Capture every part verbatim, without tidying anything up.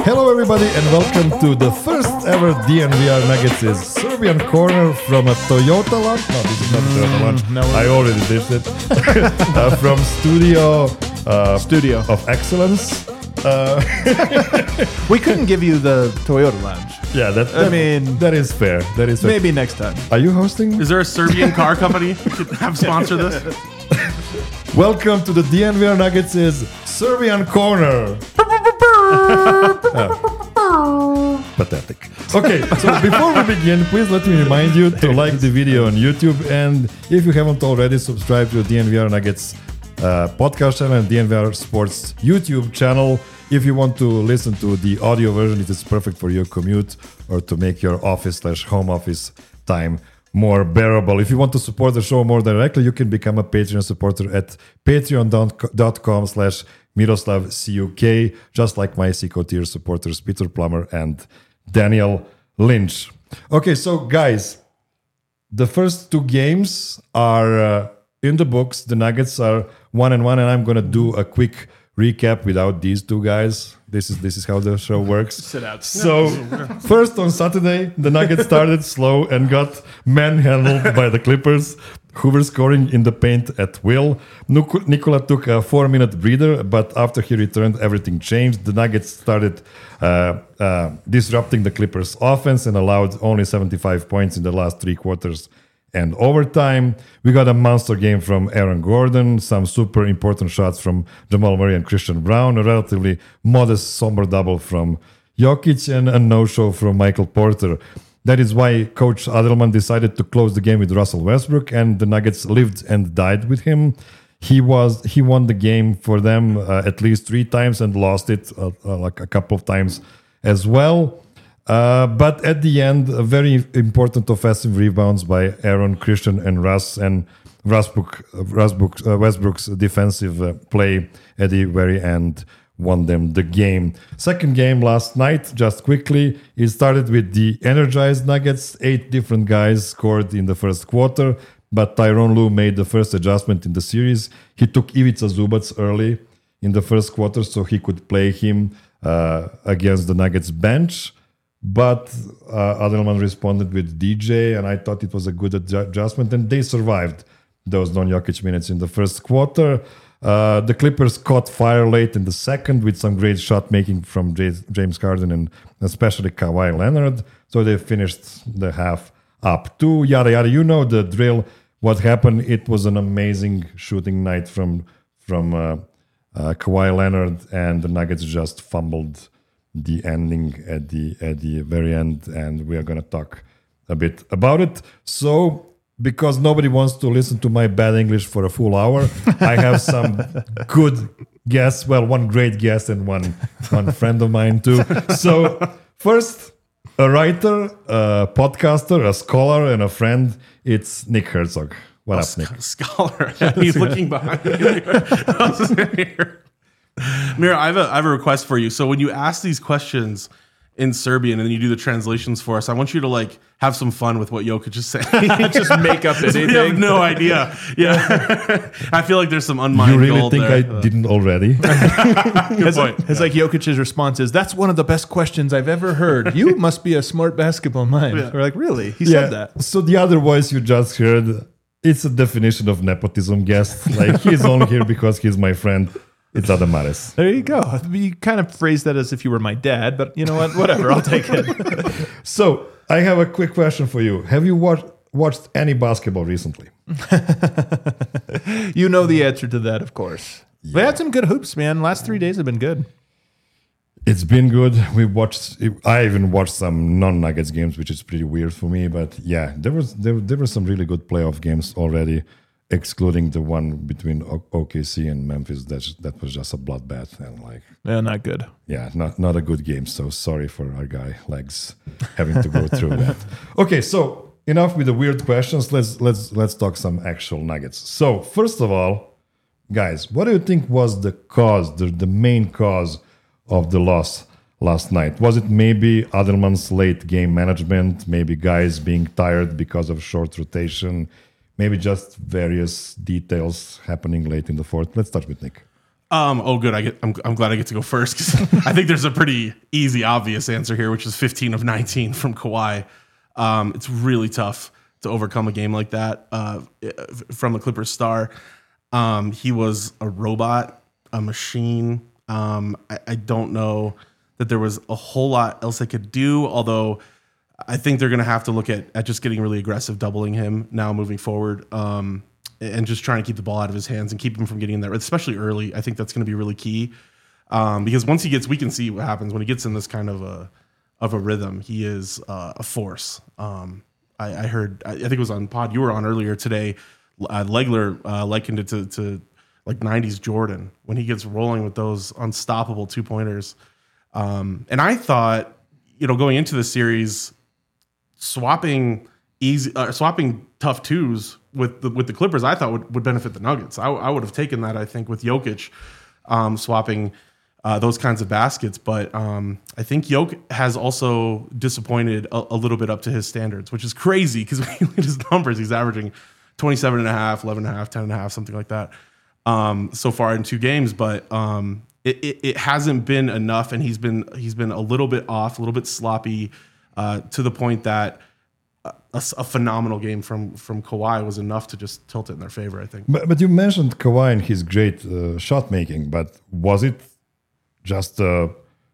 Hello, everybody, and welcome to the first ever D N V R Nuggets' Serbian Corner from a Toyota launch. No, this is not a Toyota launch. no, I already did it. uh, from Studio uh, Studio. of Excellence. Uh, We couldn't give you the Toyota Lounge. yeah, that, I that- mean, that is fair. That is fair. Maybe next time. Are you hosting? Is there a Serbian car company who could have sponsor this? Welcome to the D N V R Nuggets' Serbian Corner. Oh. Pathetic. Okay, so before we begin, please let me remind you to like the video on YouTube, and if you haven't already, subscribe to the D N V R Nuggets uh, podcast channel and D N V R Sports YouTube channel. If you want to listen to the audio version, it is perfect for your commute or to make your office slash home office time more bearable. If you want to support the show more directly, you can become a Patreon supporter at patreon.com slash Miroslav C U K, just like my Seco tier supporters Peter Plummer and Daniel Lynch. Okay, so guys, the first two games are uh, in the books. The Nuggets are one and one, and I'm gonna do a quick recap without these two guys. This is this is how the show works. Sit out. So first on Saturday, the Nuggets started slow and got manhandled by the Clippers, who were scoring in the paint at will. Nik- Nikola took a four-minute breather, but after he returned, everything changed. The Nuggets started uh, uh, disrupting the Clippers' offense and allowed only seventy-five points in the last three quarters and overtime. We got a monster game from Aaron Gordon, some super important shots from Jamal Murray and Christian Brown, a relatively modest, somber double from Jokic, and a no-show from Michael Porter. That is why Coach Adelman decided to close the game with Russell Westbrook, and the Nuggets lived and died with him. He was he won the game for them uh, at least three times and lost it uh, uh, like a couple of times as well. Uh, but at the end, a very important offensive rebounds by Aaron, Christian, and Russ, and Westbrook, Westbrook, uh, Westbrook's defensive uh, play at the very end won them the game. Second game last night, just quickly, it started with the energized Nuggets. Eight different guys scored in the first quarter, but Tyronn Lue made the first adjustment in the series. He took Ivica Zubac early in the first quarter so he could play him uh, against the Nuggets bench. But uh, Adelman responded with D J, and I thought it was a good adju- adjustment, and they survived those non-Jokic minutes in the first quarter. Uh, the Clippers caught fire late in the second with some great shot making from J- James Harden and especially Kawhi Leonard. So they finished the half up two. Yada yada. You know the drill. What happened? It was an amazing shooting night from from uh, uh, Kawhi Leonard, and the Nuggets just fumbled the ending at the at the very end, and we are going to talk a bit about it. So, because nobody wants to listen to my bad English for a full hour, I have some good guests. Well, one great guest and one one friend of mine too. So, first, a writer, a podcaster, a scholar, and a friend. It's Nick Herzog. What up, Nick? Scholar. He's looking behind me. Mira, I have, a, I have a request for you. So when you ask these questions in Serbian and then you do the translations for us, I want you to like have some fun with what Jokic is saying. Just make up anything. We have no idea. Yeah. I feel like there's some unmined You really gold think there. I didn't already? Good It's point. like, it's like Jokic's response is, "That's one of the best questions I've ever heard. You must be a smart basketball mind." Yeah. We're like, really? He said that. So the other voice you just heard, it's a definition of nepotism guest. Like, he's only here because he's my friend. It's Adamares. There you go. You kind of phrased that as if you were my dad, but you know what? Whatever. I'll take it. So I have a quick question for you. Have you watched watched any basketball recently? You know the answer to that, of course. We had some good hoops, man. Last three days have been good. It's been good. We watched. I even watched some non-Nuggets games, which is pretty weird for me. But yeah, there was there, there were some really good playoff games already, excluding the one between o- O K C and Memphis. That that was just a bloodbath, and like, Yeah, not good. yeah, not not a good game. So sorry for our guy Legs having to go through that. Okay, so enough with the weird questions. Let's let's let's talk some actual Nuggets. So first of all, guys, what do you think was the cause, the the main cause of the loss last night? Was it maybe Adelman's late game management? Maybe guys being tired because of short rotation? Maybe just various details happening late in the fourth? Let's start with Nick. Um, oh, good. I get. I'm, I'm glad I get to go first because I think there's a pretty easy, obvious answer here, which is fifteen of nineteen from Kawhi. Um, it's really tough to overcome a game like that uh, from the Clippers star. Um, he was a robot, a machine. Um, I, I don't know that there was a whole lot else they could do, although I think they're going to have to look at, at just getting really aggressive, doubling him now moving forward. Um, and just trying to keep the ball out of his hands and keep him from getting in there, especially early. I think that's going to be really key um, because once he gets, we can see what happens when he gets in this kind of a of a rhythm. He is uh, a force. Um, I, I heard, I think it was on pod you were on earlier today. Uh, Legler uh, likened it to, to like nineties Jordan when he gets rolling with those unstoppable two pointers. Um, and I thought, you know, going into the series, swapping easy, uh, swapping tough twos with the, with the Clippers, I thought would, would benefit the Nuggets. I, I would have taken that, I think, with Jokic um, swapping uh, those kinds of baskets. But um, I think Jokic has also disappointed a, a little bit up to his standards, which is crazy because when you look at his numbers, he's averaging twenty-seven and a half, eleven and a half, ten and a half, something like that um, so far in two games. But um, it, it, it hasn't been enough, and he's been he's been a little bit off, a little bit sloppy uh, to the point that A, a phenomenal game from from Kawhi was enough to just tilt it in their favor, I think. But, but you mentioned Kawhi and his great uh, shot making, but was it just a,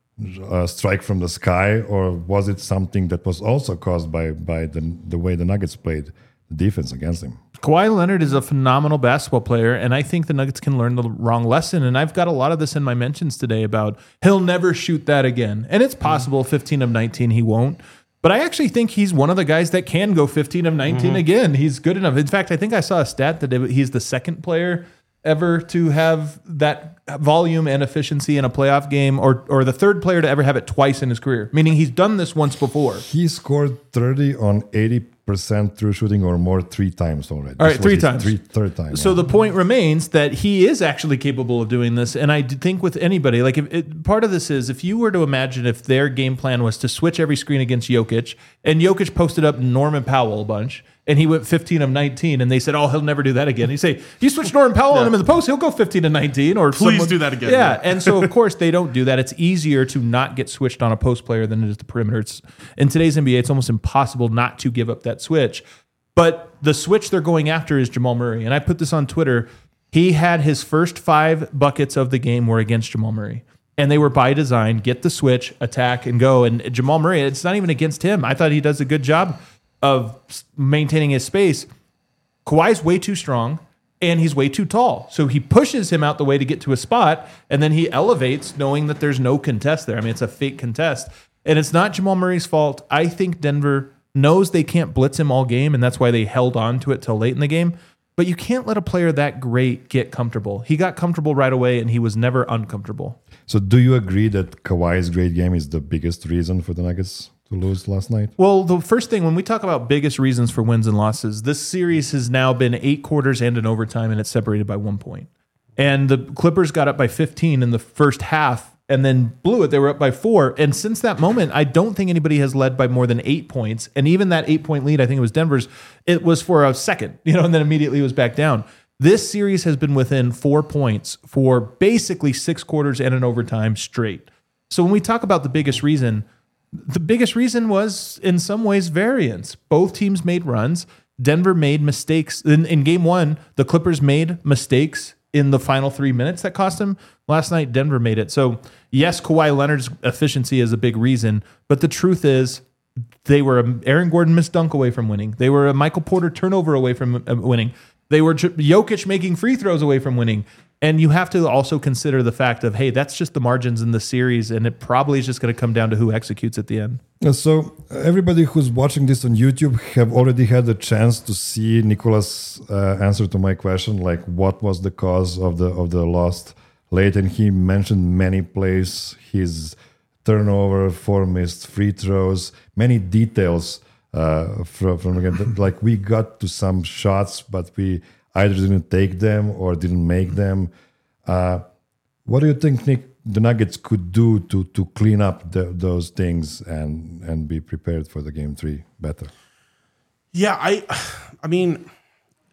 a strike from the sky, or was it something that was also caused by by the the way the Nuggets played the defense against him? Kawhi Leonard is a phenomenal basketball player, and I think the Nuggets can learn the wrong lesson. And I've got a lot of this in my mentions today about he'll never shoot that again. And it's possible fifteen of nineteen he won't. But I actually think he's one of the guys that can go fifteen of nineteen mm-hmm. again. He's good enough. In fact, I think I saw a stat that he's the second player ever to have that volume and efficiency in a playoff game, or or the third player to ever have it twice in his career, meaning he's done this once before. He scored thirty on eighty percent true shooting or more three times already. All right, three times. Three, third time. So yeah. the point remains that he is actually capable of doing this. And I think with anybody, like if it, part of this is if you were to imagine if their game plan was to switch every screen against Jokic, and Jokic posted up Norman Powell a bunch, and he went fifteen of nineteen, and they said, oh, he'll never do that again. You say, you switch Norman Powell yeah. on him in the post, he'll go fifteen of nineteen. Or Please someone, do that again. Yeah. yeah. And so, of course, they don't do that. It's easier to not get switched on a post player than it is the perimeter. It's, in today's N B A, it's almost impossible not to give up that switch. But the switch they're going after is Jamal Murray. And I put this on Twitter. He had his first five buckets of the game were against Jamal Murray. And they were by design, get the switch, attack, and go. And Jamal Murray, it's not even against him. I thought he does a good job of maintaining his space. Kawhi's way too strong, and he's way too tall. So he pushes him out the way to get to a spot, and then he elevates knowing that there's no contest there. I mean, it's a fake contest. And it's not Jamal Murray's fault. I think Denver knows they can't blitz him all game, and that's why they held on to it till late in the game. But you can't let a player that great get comfortable. He got comfortable right away, and he was never uncomfortable. So do you agree that Kawhi's great game is the biggest reason for the Nuggets to lose last night? Well, the first thing, when we talk about biggest reasons for wins and losses, this series has now been eight quarters and an overtime, and it's separated by one point. And the Clippers got up by fifteen in the first half and then blew it. They were up by four. And since that moment, I don't think anybody has led by more than eight points. And even that eight-point lead, I think it was Denver's, it was for a second, you know, and then immediately it was back down. This series has been within four points for basically six quarters and an overtime straight. So when we talk about the biggest reason, the biggest reason was in some ways variance. Both teams made runs. Denver made mistakes. In, in game one, the Clippers made mistakes in the final three minutes that cost them. Last night, Denver made it. So yes, Kawhi Leonard's efficiency is a big reason, but the truth is they were a Aaron Gordon missed dunk away from winning. They were a Michael Porter turnover away from winning. They were Jokic making free throws away from winning. And you have to also consider the fact of, hey, that's just the margins in the series, and it probably is just going to come down to who executes at the end. So everybody who's watching this on YouTube have already had the chance to see Nicolas' uh, answer to my question, like what was the cause of the of the loss late, and he mentioned many plays, his turnover, four missed free throws, many details uh, from, from again, like we got to some shots, but we either didn't take them or didn't make them. Uh, what do you think, Nick, the Nuggets could do to to clean up the, those things and and be prepared for the game three better? Yeah, I, I mean,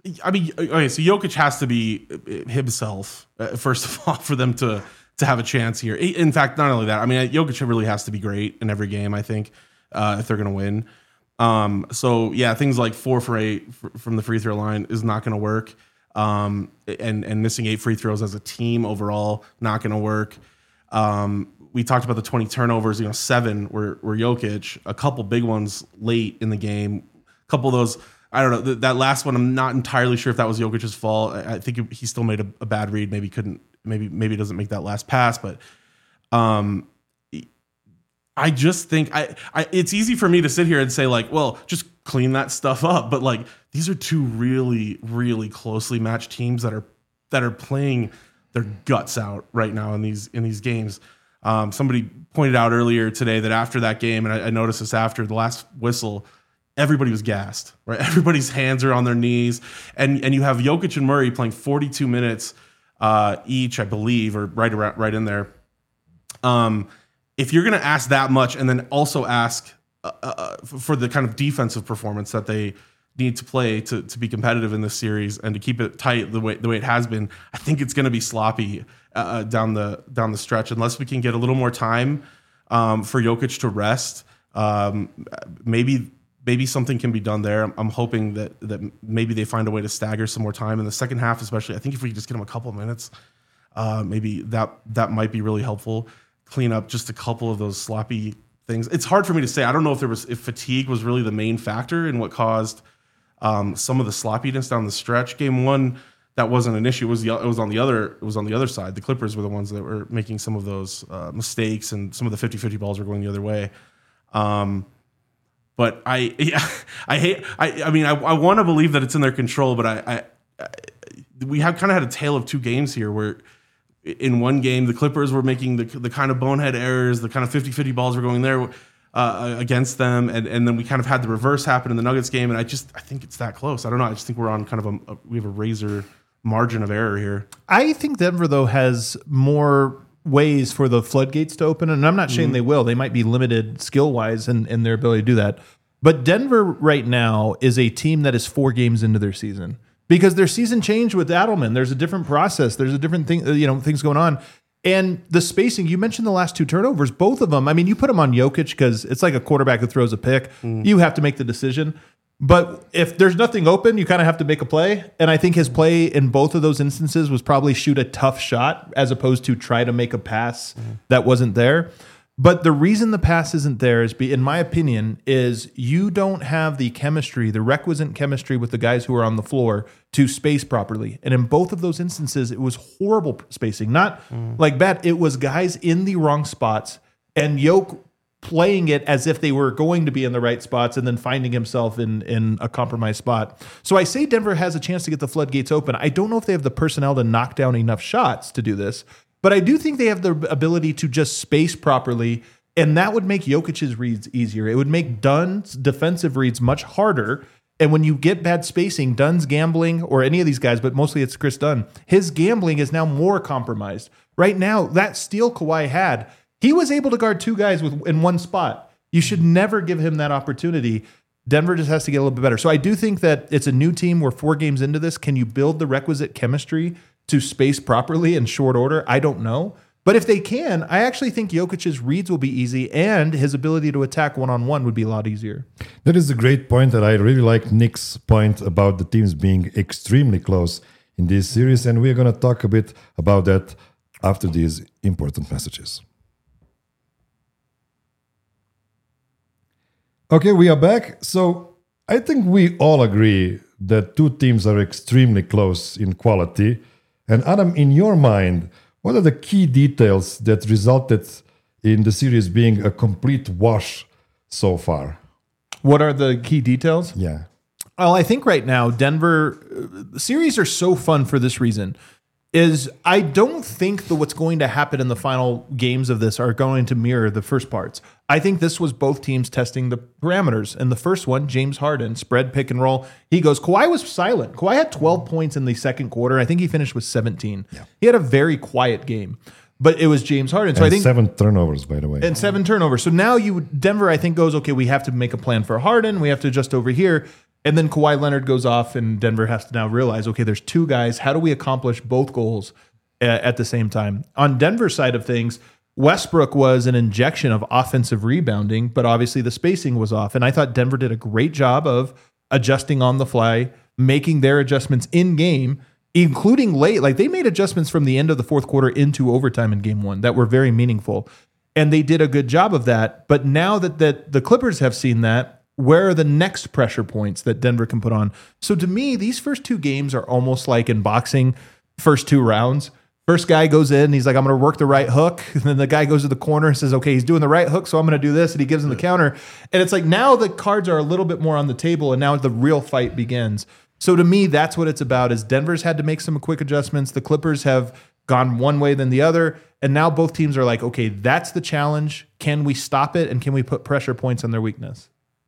I mean, okay, so Jokic has to be himself uh, first of all for them to to have a chance here. In fact, not only that, I mean, Jokic really has to be great in every game. I think uh, if they're going to win. Um, so yeah, things like four for eight from the free throw line is not going to work. Um, and and missing eight free throws as a team overall not going to work. Um, we talked about the twenty turnovers. You know, seven were were Jokic. A couple big ones late in the game. A couple of those. I don't know. Th- that last one, I'm not entirely sure if that was Jokic's fault. I, I think he still made a, a bad read. Maybe couldn't. Maybe maybe doesn't make that last pass. But um, I just think I, I. It's easy for me to sit here and say like, well, just clean that stuff up. But like, these are two really, really closely matched teams that are that are playing their guts out right now in these in these games. Um, somebody pointed out earlier today that after that game, and I, I noticed this after the last whistle, everybody was gassed, right? Everybody's hands are on their knees. And and you have Jokic and Murray playing forty-two minutes uh, each, I believe, or right around, right in there. Um, if you're going to ask that much and then also ask uh, uh, for the kind of defensive performance that they need to play to, to be competitive in this series and to keep it tight the way the way it has been, I think it's going to be sloppy uh, down the down the stretch unless we can get a little more time um, for Jokic to rest. Um, maybe maybe something can be done there. I'm, I'm hoping that that maybe they find a way to stagger some more time in the second half, especially. I think if we just get them a couple of minutes, uh, maybe that that might be really helpful. Clean up just a couple of those sloppy things. It's hard for me to say. I don't know if there was if fatigue was really the main factor in what caused um, some of the sloppiness down the stretch. Game one, that wasn't an issue. It was the it was on the other it was on the other side. The Clippers were the ones that were making some of those uh, mistakes, and some of the fifty-fifty balls were going the other way. Um, but I yeah, I hate I I mean I, I want to believe that it's in their control, but I, I, I we have kind of had a tale of two games here where in one game the Clippers were making the the kind of bonehead errors, the kind of fifty-fifty balls were going there uh, against them, and and then we kind of had the reverse happen in the Nuggets game, and I just I think it's that close. I don't know. I just think we're on kind of a, a we have a razor margin of error here. I think Denver though has more ways for the floodgates to open, and I'm not saying mm-hmm. they will. They might be limited skill wise in, in their ability to do that. But Denver right now is a team that is four games into their season because their season changed with Adelman. There's a different process. There's a different thing, you know, things going on. And the spacing, you mentioned the last two turnovers, both of them. I mean, you put them on Jokic because it's like a quarterback that throws a pick. Mm. You have to make the decision. But if there's nothing open, you kind of have to make a play. And I think his play in both of those instances was probably shoot a tough shot as opposed to try to make a pass mm. that wasn't there. But the reason the pass isn't there is, be, in my opinion, is you don't have the chemistry, the requisite chemistry with the guys who are on the floor to space properly. And in both of those instances, it was horrible spacing. Not mm. like bad. It was guys in the wrong spots and Jokic playing it as if they were going to be in the right spots and then finding himself in, in a compromised spot. So I say Denver has a chance to get the floodgates open. I don't know if they have the personnel to knock down enough shots to do this, but I do think they have the ability to just space properly, and that would make Jokic's reads easier. It would make Dunn's defensive reads much harder, and when you get bad spacing, Dunn's gambling, or any of these guys, but mostly it's Chris Dunn, his gambling is now more compromised. Right now, that steal Kawhi had, he was able to guard two guys with in one spot. You should never give him that opportunity. Denver just has to get a little bit better. So I do think that it's a new team. We're four games into this. Can you build the requisite chemistry to space properly in short order? I don't know. But if they can, I actually think Jokic's reads will be easy and his ability to attack one-on-one would be a lot easier. That is a great point, that I really like Nick's point about the teams being extremely close in this series. And we're going to talk a bit about that after these important messages. Okay, we are back. So I think we all agree that two teams are extremely close in quality. And Adam, in your mind, what are the key details that resulted in the series being a complete wash so far? What are the key details? Yeah. Well, I think right now, Denver, uh, series are so fun for this reason, is I don't think that what's going to happen in the final games of this are going to mirror the first parts. I think this was both teams testing the parameters. And the first one, James Harden, spread pick and roll. He goes, Kawhi was silent. Kawhi had twelve points in the second quarter. I think he finished with seventeen. Yeah. He had a very quiet game. But it was James Harden. So and I think seven turnovers, by the way. And seven turnovers. So now you Denver, I think, goes, okay, we have to make a plan for Harden. We have to adjust over here. And then Kawhi Leonard goes off, and Denver has to now realize, okay, there's two guys. How do we accomplish both goals uh, at the same time? On Denver's side of things, Westbrook was an injection of offensive rebounding, but obviously the spacing was off. And I thought Denver did a great job of adjusting on the fly, making their adjustments in game, including late. Like they made adjustments from the end of the fourth quarter into overtime in game one that were very meaningful. And they did a good job of that. But now that, that the Clippers have seen that, where are the next pressure points that Denver can put on? So to me, these first two games are almost like in boxing, first two rounds. First guy goes in, he's like, I'm going to work the right hook. And then the guy goes to the corner and says, okay, he's doing the right hook, so I'm going to do this. And he gives him the counter. And it's like now the cards are a little bit more on the table, and now the real fight begins. So to me, that's what it's about, is Denver's had to make some quick adjustments. The Clippers have gone one way than the other. And now both teams are like, okay, that's the challenge. Can we stop it? And can we put pressure points on their weakness?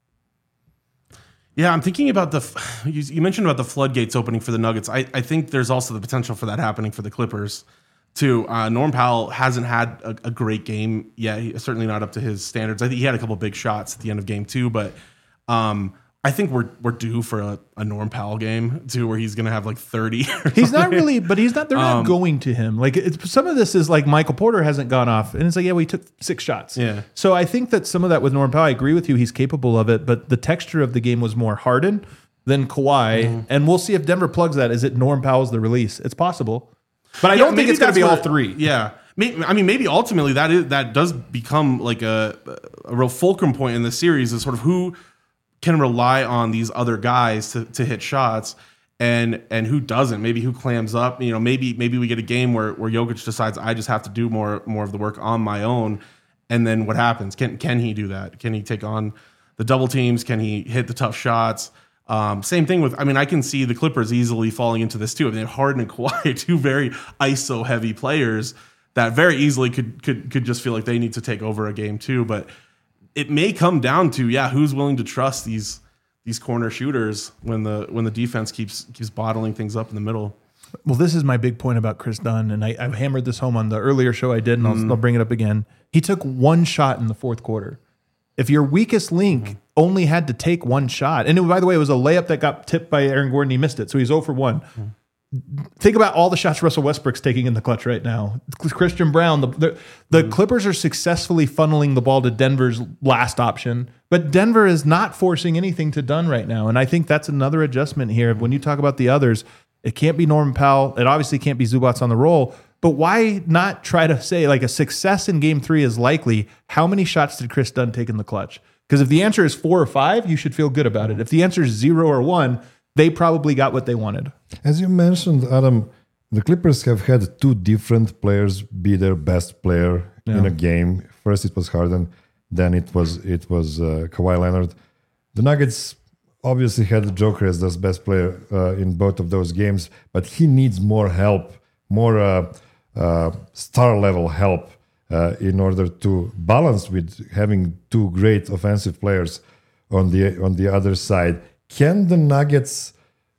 Yeah, I'm thinking about the, you, you mentioned about the floodgates opening for the Nuggets. I, I think there's also the potential for that happening for the Clippers too. Uh, Norm Powell hasn't had a, a great game yet. He, certainly not up to his standards. I think he had a couple big shots at the end of game two, but um, I think we're we're due for a, a Norm Powell game too, where he's going to have like thirty. He's not really, but he's not. They're not Um, going to him. Like it's, some of this is like Michael Porter hasn't gone off, and it's like, yeah, we took six shots. Yeah. So I think that some of that with Norm Powell, I agree with you. He's capable of it, but the texture of the game was more Harden than Kawhi, Mm-hmm. and we'll see if Denver plugs that. Is it Norm Powell's the release? It's possible, but I Yeah, don't think maybe it's going to that's be all where- three. Yeah. May- I mean, maybe ultimately that is that does become like a, a real fulcrum point in the series, is sort of who can rely on these other guys to, to hit shots, and and who doesn't. Maybe who clams up. You know, maybe maybe we get a game where where Jokic decides I just have to do more more of the work on my own, and then what happens? Can can he do that? Can he take on the double teams? Can he hit the tough shots? Um, same thing with, I mean, I can see the Clippers easily falling into this too. I mean, Harden and Kawhi, two very I S O heavy players that very easily could could could just feel like they need to take over a game too. But it may come down to, yeah, who's willing to trust these these corner shooters when the when the defense keeps keeps bottling things up in the middle. Well, this is my big point about Chris Dunn, and I, I've hammered this home on the earlier show I did, and I'll, I'll bring it up again. He took one shot in the fourth quarter. If your weakest link mm-hmm. only had to take one shot, and it, by the way, it was a layup that got tipped by Aaron Gordon, he missed it, so he's zero for one. Mm-hmm. Think about all the shots Russell Westbrook's taking in the clutch right now. Christian Brown, the the, the mm-hmm. Clippers are successfully funneling the ball to Denver's last option, but Denver is not forcing anything to Dunn right now, and I think that's another adjustment here. When you talk about the others, it can't be Norman Powell. It obviously can't be Zubats on the roll. But why not try to say like a success in game three is likely? How many shots did Chris Dunn take in the clutch? Because if the answer is four or five, you should feel good about it. If the answer is zero or one, they probably got what they wanted. As you mentioned, Adam, the Clippers have had two different players be their best player Yeah. in a game. First it was Harden, then it was it was uh, Kawhi Leonard. The Nuggets obviously had the Joker as their best player uh, in both of those games, but he needs more help, more uh, uh, star level help uh, in order to balance with having two great offensive players on the on the other side. Can the Nuggets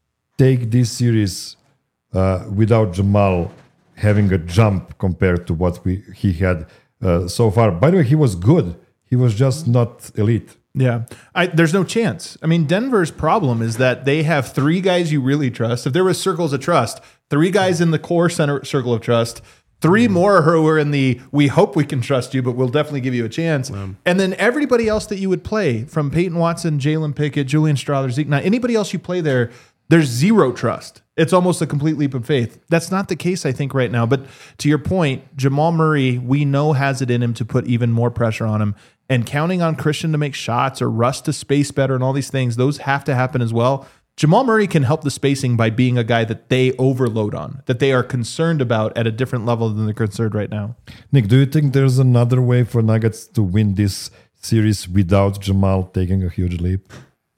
take this series uh, without Jamal having a jump compared to what we he had uh, so far? By the way, he was good. He was just not elite. Yeah, I, there's no chance. I mean, Denver's problem is that they have three guys you really trust. If there was circles of trust, three guys in the core center circle of trust, three more who are in the we hope we can trust you, but we'll definitely give you a chance. Um, and then everybody else that you would play, from Peyton Watson, Jalen Pickett, Julian Strawther, Zeke Knight, anybody else you play there, there's zero trust. It's almost a complete leap of faith. That's not the case, I think, right now. But to your point, Jamal Murray, we know has it in him to put even more pressure on him. And counting on Christian to make shots or Russ to space better and all these things, those have to happen as well. Jamal Murray can help the spacing by being a guy that they overload on, that they are concerned about at a different level than they're concerned right now. Nick, do you think there's another way for Nuggets to win this series without Jamal taking a huge leap?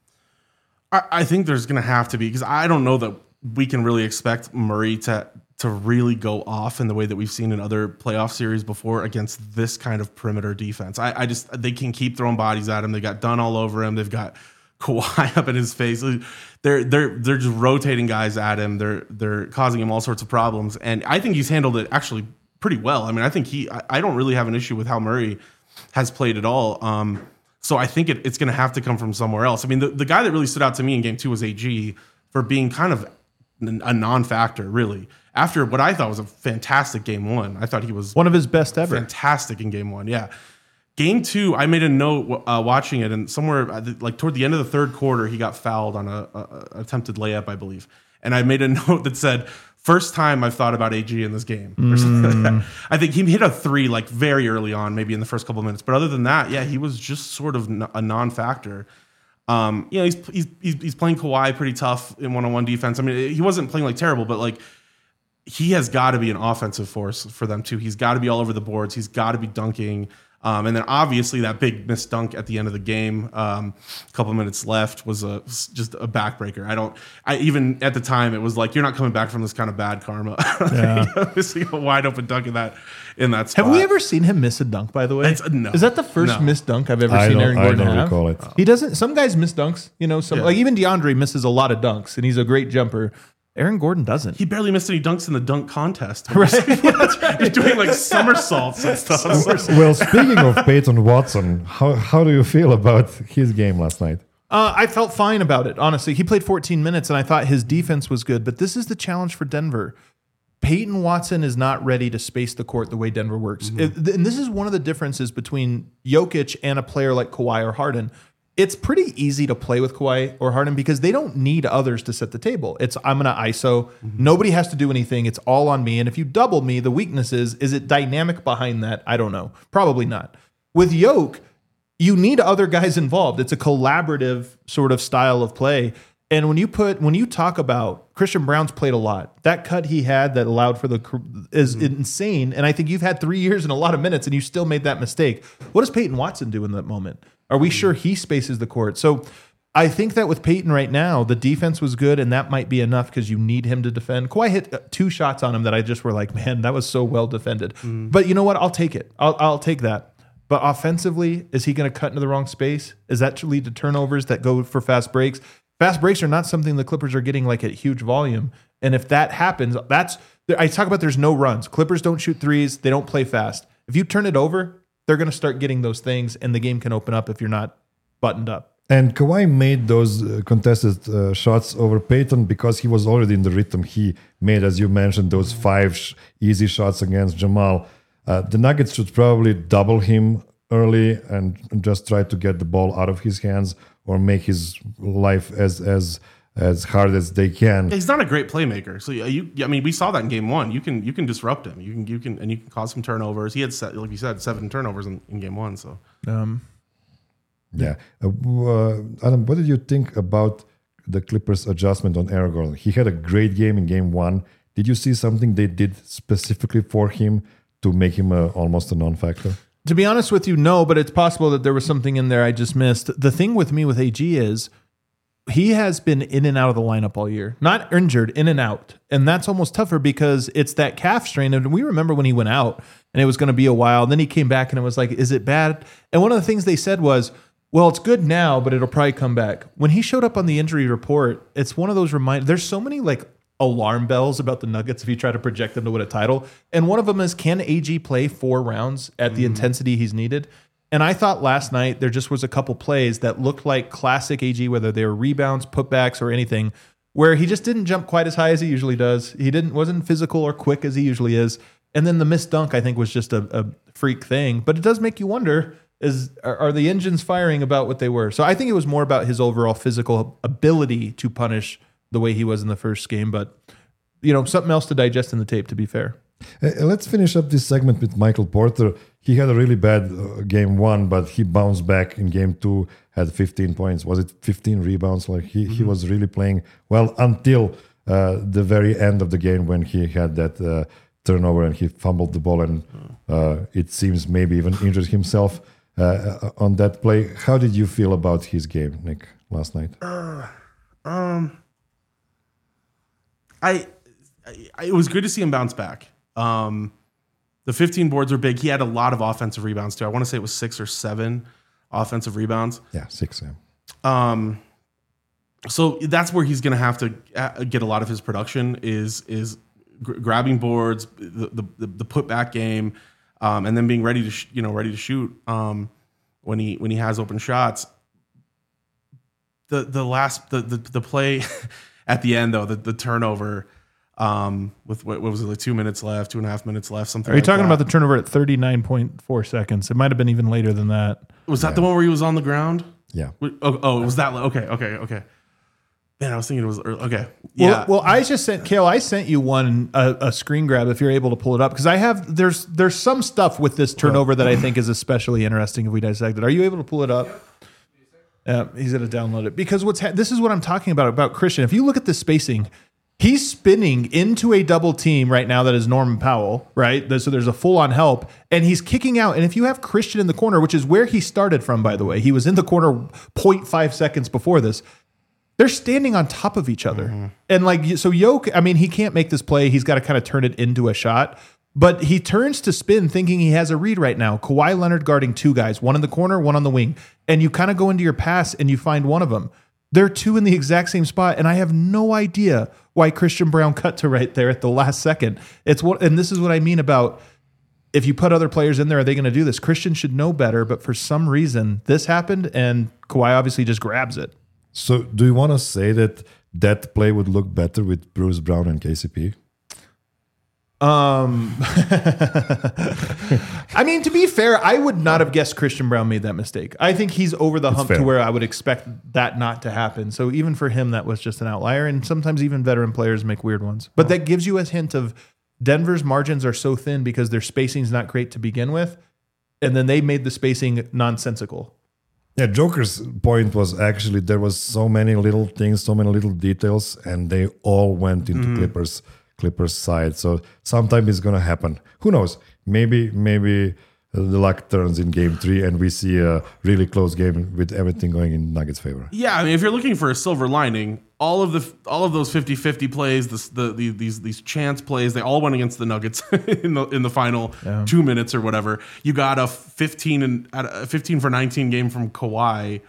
I, I think there's going to have to be, because I don't know that we can really expect Murray to to really go off in the way that we've seen in other playoff series before against this kind of perimeter defense. I, I just they can keep throwing bodies at him. They got Dunn all over him. They've got Kawhi up in his face. They're they're they're just rotating guys at him. They're they're causing him all sorts of problems. And I think he's handled it actually pretty well. I mean, I think he I, I don't really have an issue with how Murray has played at all. Um, So I think it, it's going to have to come from somewhere else. I mean, the, the guy that really stood out to me in game two was A G for being kind of a non-factor, really. After what I thought was a fantastic game one, I thought he was one of his best ever. Fantastic in game one, yeah. Game two, I made a note uh, watching it, and somewhere like toward the end of the third quarter, he got fouled on a, a, a attempted layup, I believe. And I made a note that said, first time I've thought about A G in this game. Mm. I think he hit a three like very early on, maybe in the first couple of minutes. But other than that, yeah, he was just sort of a non-factor. Um, you know, he's, he's he's playing Kawhi pretty tough in one-on-one defense. I mean, he wasn't playing like terrible, but like he has got to be an offensive force for them too. He's got to be all over the boards. He's got to be dunking. Um, and then obviously that big missed dunk at the end of the game, um, a couple of minutes left, was a just a backbreaker. I don't. I even at the time it was like, you're not coming back from this kind of bad karma. Yeah. Missing a wide open dunk in that in that spot. Have we ever seen him miss a dunk? By the way, it's, no, is that the first no. missed dunk I've ever I seen Aaron Gordon I don't have? recall it. He doesn't. Some guys miss dunks. You know, some Yeah. like even DeAndre misses a lot of dunks, and he's a great jumper. Aaron Gordon doesn't. He barely missed any dunks in the dunk contest. Right. Yeah, that's right. He's doing like somersaults and stuff. Well, speaking of Peyton Watson, how how do you feel about his game last night? Uh, I felt fine about it, honestly. He played fourteen minutes, and I thought his defense was good. But this is the challenge for Denver. Peyton Watson is not ready to space the court the way Denver works. Mm-hmm. It- and this is one of the differences between Jokic and a player like Kawhi or Harden. It's pretty easy to play with Kawhi or Harden because they don't need others to set the table. It's I'm going to I S O. Mm-hmm. Nobody has to do anything. It's all on me. And if you double me, the weakness is, is it dynamic behind that? I don't know. Probably not. With Yoke, you need other guys involved. It's a collaborative sort of style of play. And when you put when you talk about Christian Brown's played a lot, that cut he had that allowed for the is mm-hmm. insane. And I think you've had three years and a lot of minutes, and you still made that mistake. What does Peyton Watson do in that moment? Are we sure he spaces the court? So I think that with Peyton right now, the defense was good, and that might be enough because you need him to defend. Kawhi hit two shots on him that I just were like, man, that was so well defended. Mm. But you know what? I'll take it. I'll, I'll take that. But offensively, is he going to cut into the wrong space? Is that to lead to turnovers that go for fast breaks? Fast breaks are not something the Clippers are getting like at huge volume. And if that happens, that's I talk about there's no runs. Clippers don't shoot threes. They don't play fast. If you turn it over, they're going to start getting those things, and the game can open up if you're not buttoned up. And Kawhi made those uh, contested uh, shots over Peyton because he was already in the rhythm. He made, as you mentioned, those five sh- easy shots against Jamal. Uh, the Nuggets should probably double him early and just try to get the ball out of his hands or make his life as as as hard as they can. He's not a great playmaker. So you, I mean, we saw that in game one. You can you can disrupt him. You can you can and you can cause some turnovers. He had, like you said, seven turnovers in, in game one. So um, yeah, uh, uh, Adam, what did you think about the Clippers' adjustment on Aaron Gordon? He had a great game in game one. Did you see something they did specifically for him to make him a, almost a non-factor? To be honest with you, no, but it's possible that there was something in there I just missed. The thing with me with A G is he has been in and out of the lineup all year. Not injured, in and out. And that's almost tougher because it's that calf strain. And we remember when he went out and it was going to be a while. And then he came back and it was like, is it bad? And one of the things they said was, well, it's good now, but it'll probably come back. When he showed up on the injury report, it's one of those reminders. There's so many like alarm bells about the Nuggets if you try to project them to win a title. And one of them is, can A G play four rounds at the mm. intensity he's needed? And I thought last night there just was a couple plays that looked like classic A G, whether they were rebounds, putbacks, or anything, where he just didn't jump quite as high as he usually does. He didn't wasn't physical or quick as he usually is. And then the missed dunk, I think, was just a, a freak thing. But it does make you wonder, is are, are the engines firing about what they were? So I think it was more about his overall physical ability to punish the way he was in the first game. But, you know, something else to digest in the tape, to be fair. Uh, let's finish up this segment with Michael Porter. He had a really bad uh, game one, but he bounced back in game two, had fifteen points. Was it fifteen rebounds? Like he, mm-hmm. he was really playing well until uh, the very end of the game when he had that uh, turnover and he fumbled the ball and uh, it seems maybe even injured himself uh, on that play. How did you feel about his game, Nick, last night? Uh, um, I, I it was good to see him bounce back. Um, the fifteen boards were big. He had a lot of offensive rebounds too. I want to say it was six or seven offensive rebounds. Yeah, six. Yeah. Um, so that's where he's going to have to get a lot of his production is is gr- grabbing boards, the the, the putback game, um, and then being ready to sh- you know ready to shoot. Um, when he when he has open shots. The the last the the, the play at the end though, the, the turnover um, with what, what was it, like two minutes left, two and a half minutes left, something. Are you like talking that. about the turnover at thirty-nine point four seconds? It might have been even later than that. Was that yeah. the one where he was on the ground? Yeah. Oh, oh, it was that. Okay, okay, okay. Man, I was thinking it was early. Okay. Yeah. Well, well, I just sent Kale. I sent you one a, a screen grab if you're able to pull it up because I have there's there's some stuff with this turnover that I think is especially interesting if we dissect it. Are you able to pull it up? Yeah, he's gonna download it because what's ha- this is what I'm talking about about Christian. If you look at the spacing, he's spinning into a double team right now that is Norman Powell, right? So there's a full on help, and he's kicking out. And if you have Christian in the corner, which is where he started from, by the way, he was in the corner zero point five seconds before this. They're standing on top of each other. Mm-hmm. And like, so Yoke, I mean, he can't make this play. He's got to kind of turn it into a shot. But he turns to spin thinking he has a read right now. Kawhi Leonard guarding two guys, one in the corner, one on the wing. And you kind of go into your pass and you find one of them. They're two in the exact same spot. And I have no idea why Christian Braun cut to right there at the last second. It's what, and this is what I mean about if you put other players in there, are they going to do this? Christian should know better. But for some reason, this happened and Kawhi obviously just grabs it. So do you want to say that that play would look better with Bruce Brown and K C P? Um, I mean, to be fair, I would not have guessed Christian Braun made that mistake. I think he's over the It's hump fair. to where I would expect that not to happen. So even for him, that was just an outlier. And sometimes even veteran players make weird ones. But that gives you a hint of Denver's margins are so thin because their spacing's not great to begin with. And then they made the spacing nonsensical. Yeah, Joker's point was actually there was so many little things, so many little details, and they all went into mm-hmm. Clippers Clippers side. So sometime it's gonna happen. Who knows? Maybe maybe the luck turns in game three, and we see a really close game with everything going in Nuggets' favor. Yeah, I mean, if you're looking for a silver lining, all of the all of those fifty-fifty plays, this, the, the these these chance plays, they all went against the Nuggets in the in the final yeah. two minutes or whatever. You got a fifteen and a fifteen for nineteen game from Kawhi,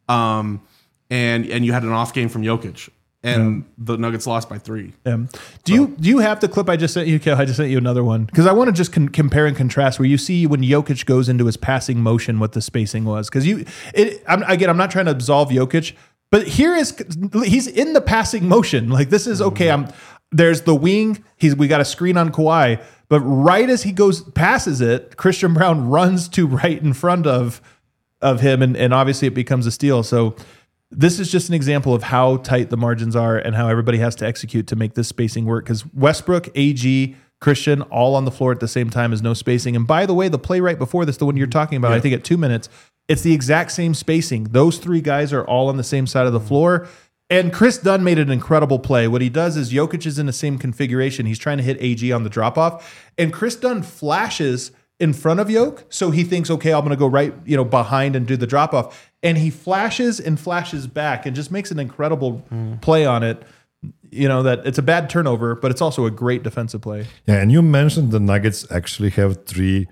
um, and and you had an off game from Jokic. And yeah. the Nuggets lost by three. Yeah. Do so. you do you have the clip I just sent you, Kel? I just sent you another one because I want to just con- compare and contrast where you see when Jokic goes into his passing motion what the spacing was because you it I'm, again I'm not trying to absolve Jokic, but here is he's in the passing motion like this is okay. I'm there's the wing. He's we got a screen on Kawhi, but right as he goes passes it, Christian Braun runs to right in front of of him, and, and obviously it becomes a steal. So. This is just an example of how tight the margins are and how everybody has to execute to make this spacing work. Because Westbrook, A G, Christian, all on the floor at the same time is no spacing. And by the way, the play right before this, the one you're talking about, yeah. I think at two minutes, it's the exact same spacing. Those three guys are all on the same side of the floor. And Chris Dunn made an incredible play. What he does is Jokic is in the same configuration. He's trying to hit A G on the drop-off. And Chris Dunn flashes in front of Yoke. So he thinks, okay, I'm going to go right, you know, behind and do the drop off. And he flashes and flashes back and just makes an incredible mm. play on it. You know, that it's a bad turnover, but it's also a great defensive play. Yeah. And you mentioned the Nuggets actually have three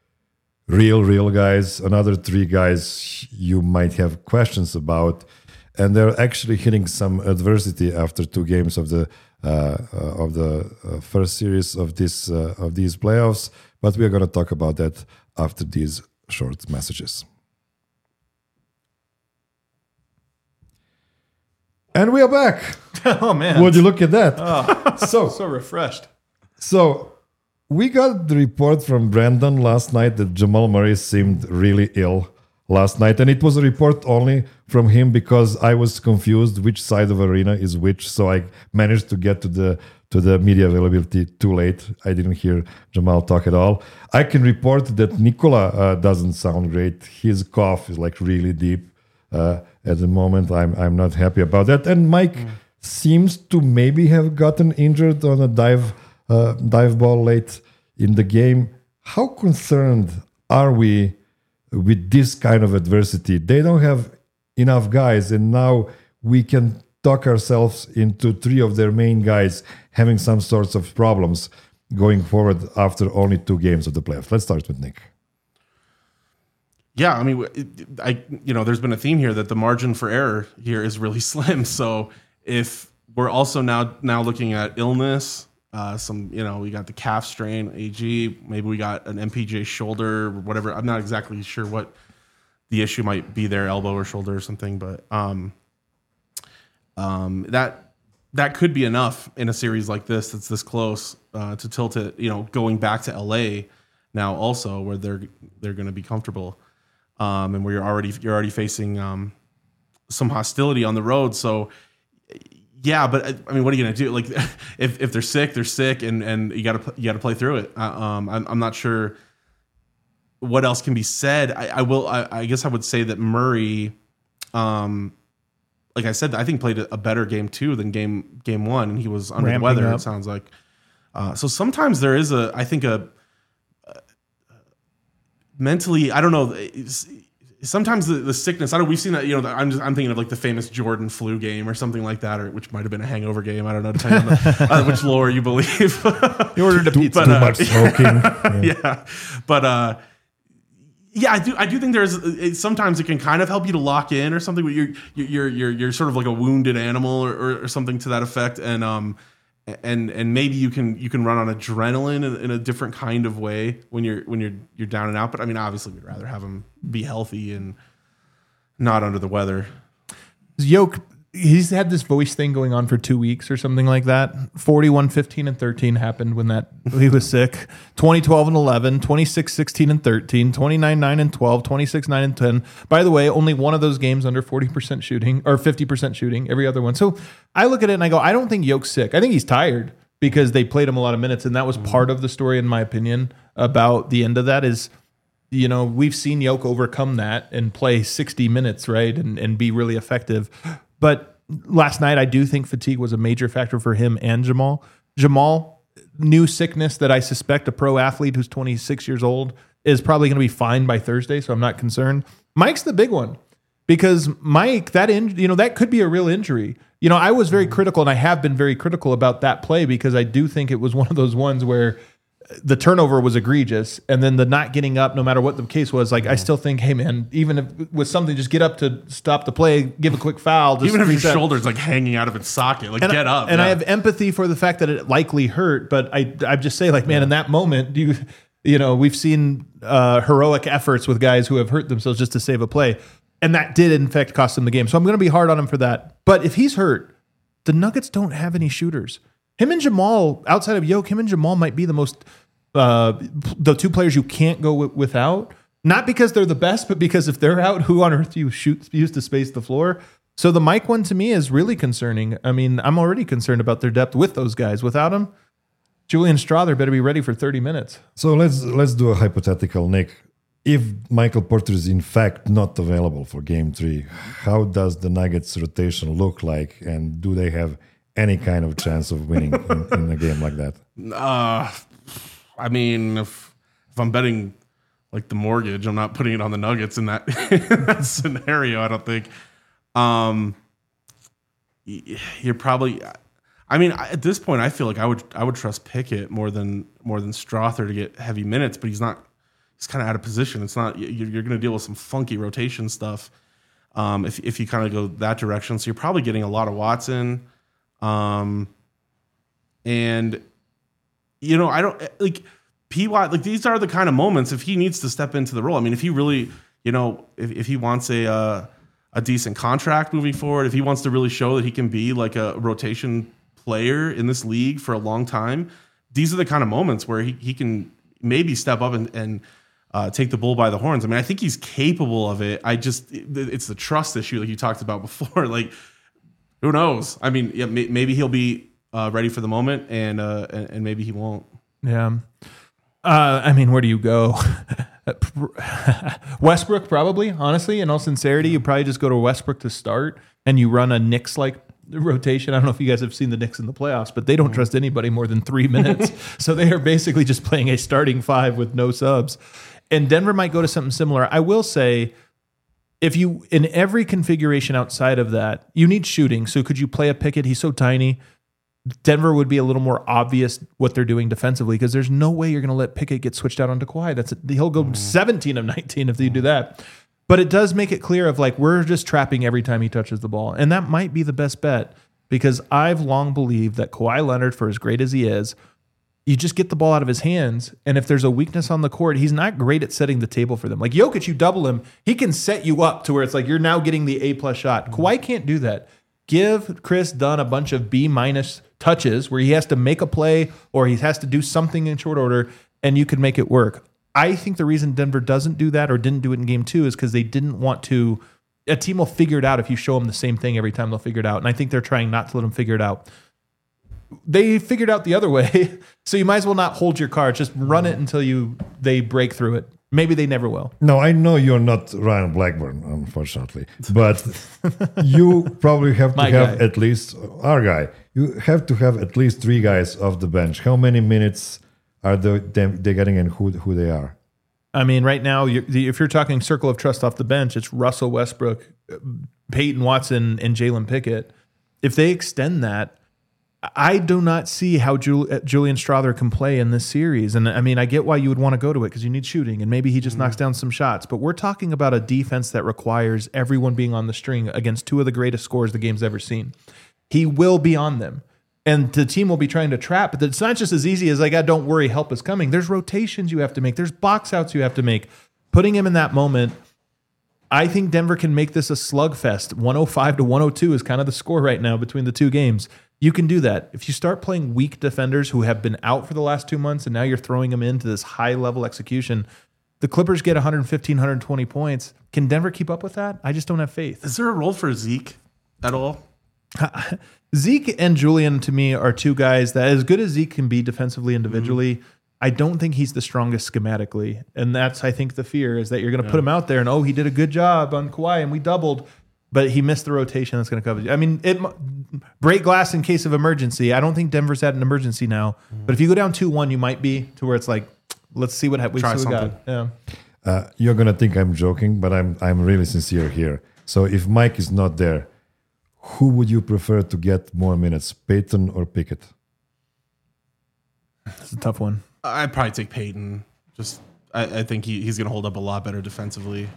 real, real guys, another three guys you might have questions about. And they're actually hitting some adversity after two games of the uh, uh, of the uh, first series of this uh, of these playoffs. But we are going to talk about that after these short messages. And we are back. Oh, man. Would you look at that? Oh, so, so refreshed. So we got the report from Brandon last night that Jamal Murray seemed really ill last night. And it was a report only from him because I was confused which side of arena is which. So I managed to get to the to the media availability too late. I didn't hear Jamal talk at all. I can report that Nikola uh, doesn't sound great. His cough is like really deep uh, at the moment. I'm I'm not happy about that. And Mike mm. seems to maybe have gotten injured on a dive uh, dive ball late in the game. How concerned are we with this kind of adversity? They don't have enough guys, and now we can talk ourselves into three of their main guys having some sorts of problems going forward after only two games of the playoffs. Let's start with Nick. Yeah, I mean, I you know, there's been a theme here that the margin for error here is really slim. So if we're also now now looking at illness, uh, some you know, we got the calf strain, A G, maybe we got an M P J shoulder, or whatever. I'm not exactly sure what the issue might be their elbow or shoulder or something. But um, um, that that could be enough in a series like this that's this close uh, to tilt it. You know, going back to L A now also where they're they're going to be comfortable, um, and where you're already you're already facing um, some hostility on the road. So. Yeah, but I mean, what are you gonna do? Like, if, if they're sick, they're sick, and, and you gotta you gotta play through it. Uh, um, I'm I'm not sure what else can be said. I, I will. I, I guess I would say that Murray, um, like I said, I think played a better game two than game game one, and he was under Ramping the weather. up. It sounds like. Uh, so sometimes there is a, I think a, a mentally, I don't know. It's, Sometimes the, the sickness, I don't. We've seen that. You know, I'm just, I'm thinking of like the famous Jordan flu game or something like that, or which might have been a hangover game. I don't know, depending on the, uh, which lore you believe. You ordered a pizza. But, Too uh, much smoking. Yeah. yeah, but uh, yeah, I do. I do think there's it, sometimes it can kind of help you to lock in or something. Where you're you're you're you're sort of like a wounded animal or, or, or something to that effect, and um, and and maybe you can you can run on adrenaline in, in a different kind of way when you're when you're you're down and out. But I mean, obviously, we'd rather have him be healthy and not under the weather. Yoke, he's had this voice thing going on for two weeks or something like that. forty-one, fifteen, and thirteen happened when that he was sick. twenty, twelve, and eleven, twenty-six, sixteen, and thirteen, twenty-nine, nine, and twelve, twenty-six, nine, and ten. By the way, only one of those games under forty percent shooting or fifty percent shooting, every other one. So I look at it and I go, I don't think Yoke's sick. I think he's tired because they played him a lot of minutes. And that was part of the story, in my opinion, about the end of that is, you know, we've seen Yoke overcome that and play sixty minutes, right, and, and be really effective. But last night, I do think fatigue was a major factor for him and Jamal. Jamal, new sickness that I suspect a pro athlete who's twenty-six years old is probably going to be fine by Thursday, so I'm not concerned. Mike's the big one because Mike, that in, you know, that could be a real injury. You know, I was very critical, and I have been very critical about that play because I do think it was one of those ones where the turnover was egregious, and then the not getting up, no matter what the case was, like, I still think, hey, man, even if with something, just get up to stop the play, give a quick foul. Just Even if your reset. shoulder's like hanging out of its socket, like And get I, up. And yeah. I have empathy for the fact that it likely hurt, but I I just say, like, man, in that moment, you you know, we've seen uh, heroic efforts with guys who have hurt themselves just to save a play, and that did in fact cost them the game. So I'm going to be hard on him for that. But if he's hurt, the Nuggets don't have any shooters. Him and Jamal, outside of Yoke, him and Jamal might be the most. Uh, the two players you can't go w- without, not because they're the best, but because if they're out, who on earth do you shoot use to space the floor? So the Mike one to me is really concerning. I mean, I'm already concerned about their depth with those guys. Without them, Julian Strother better be ready for thirty minutes. So let's let's do a hypothetical, Nick. If Michael Porter is in fact not available for Game Three, how does the Nuggets rotation look like, and do they have any kind of chance of winning in, in a game like that? Uh, I mean, if if I'm betting like the mortgage, I'm not putting it on the Nuggets in that, in that scenario. I don't think. Um, you're probably. I mean, at this point, I feel like I would I would trust Pickett more than more than Strother to get heavy minutes, but he's not. He's kind of out of position. It's not. You're, you're going to deal with some funky rotation stuff. Um, if if you kind of go that direction, so you're probably getting a lot of Watson, um, and. You know, I don't like P Y. Like, these are the kind of moments if he needs to step into the role. I mean, if he really, you know, if, if he wants a uh, a decent contract moving forward, if he wants to really show that he can be like a rotation player in this league for a long time, these are the kind of moments where he, he can maybe step up and, and uh, take the bull by the horns. I mean, I think he's capable of it. I just, it's the trust issue like you talked about before. Like, who knows? I mean, yeah, may, maybe he'll be Uh, ready for the moment, and, uh, and and maybe he won't. Yeah. Uh, I mean, where do you go? Westbrook, probably, honestly, in all sincerity. You probably just go to Westbrook to start, and you run a Knicks-like rotation. I don't know if you guys have seen the Knicks in the playoffs, but they don't trust anybody more than three minutes. So they are basically just playing a starting five with no subs. And Denver might go to something similar. I will say, if you, in every configuration outside of that, you need shooting. So could you play a Pickett? He's so tiny. Denver would be a little more obvious what they're doing defensively because there's no way you're going to let Pickett get switched out onto Kawhi. That's a, he'll go seventeen of nineteen if you do that. But it does make it clear of like we're just trapping every time he touches the ball, and that might be the best bet because I've long believed that Kawhi Leonard, for as great as he is, you just get the ball out of his hands. And if there's a weakness on the court, he's not great at setting the table for them. Like Jokic, you double him, he can set you up to where it's like you're now getting the A plus shot. Kawhi can't do that. Give Chris Dunn a bunch of B minus touches where he has to make a play or he has to do something in short order, and you can make it work. I think the reason Denver doesn't do that or didn't do it in game two is because they didn't want to. A team will figure it out if you show them the same thing every time. They'll figure it out, and I think they're trying not to let them figure it out. They figured out the other way, so you might as well not hold your card. Just run it until you they break through it. Maybe they never will. No, I know you're not Ryan Blackburn, unfortunately, but you probably have to My have guy. at least our guy. You have to have at least three guys off the bench. How many minutes are they them, they getting and who who they are? I mean, right now, you're, the, if you're talking circle of trust off the bench, it's Russell Westbrook, Peyton Watson, and Jalen Pickett. If they extend that, I do not see how Jul- Julian Strawther can play in this series. And I mean, I get why you would want to go to it because you need shooting, and maybe he just mm-hmm. knocks down some shots. But we're talking about a defense that requires everyone being on the string against two of the greatest scorers the game's ever seen. He will be on them. And the team will be trying to trap, but it's not just as easy as like, ah, don't worry, help is coming. There's rotations you have to make. There's box outs you have to make. Putting him in that moment, I think Denver can make this a slugfest. one oh five to one oh two is kind of the score right now between the two games. You can do that. If you start playing weak defenders who have been out for the last two months and now you're throwing them into this high-level execution, the Clippers get one fifteen, one twenty points. Can Denver keep up with that? I just don't have faith. Is there a role for Zeke at all? Zeke and Julian, to me, are two guys that, as good as Zeke can be defensively individually, mm-hmm. I don't think he's the strongest schematically. And that's, I think, the fear is that you're going to yeah. put him out there and, oh, he did a good job on Kawhi and we doubled, but he missed the rotation that's going to cover you. I mean, it break glass in case of emergency. I don't think Denver's at an emergency now. Mm-hmm. But if you go down two one, you might be to where it's like, let's see what happens. Try we something. got. Yeah. Uh, you're going to think I'm joking, but I'm I'm really sincere here. So if Mike is not there, who would you prefer to get more minutes, Peyton or Pickett? That's a tough one. I'd probably take Peyton. Just, I, I think he, he's going to hold up a lot better defensively.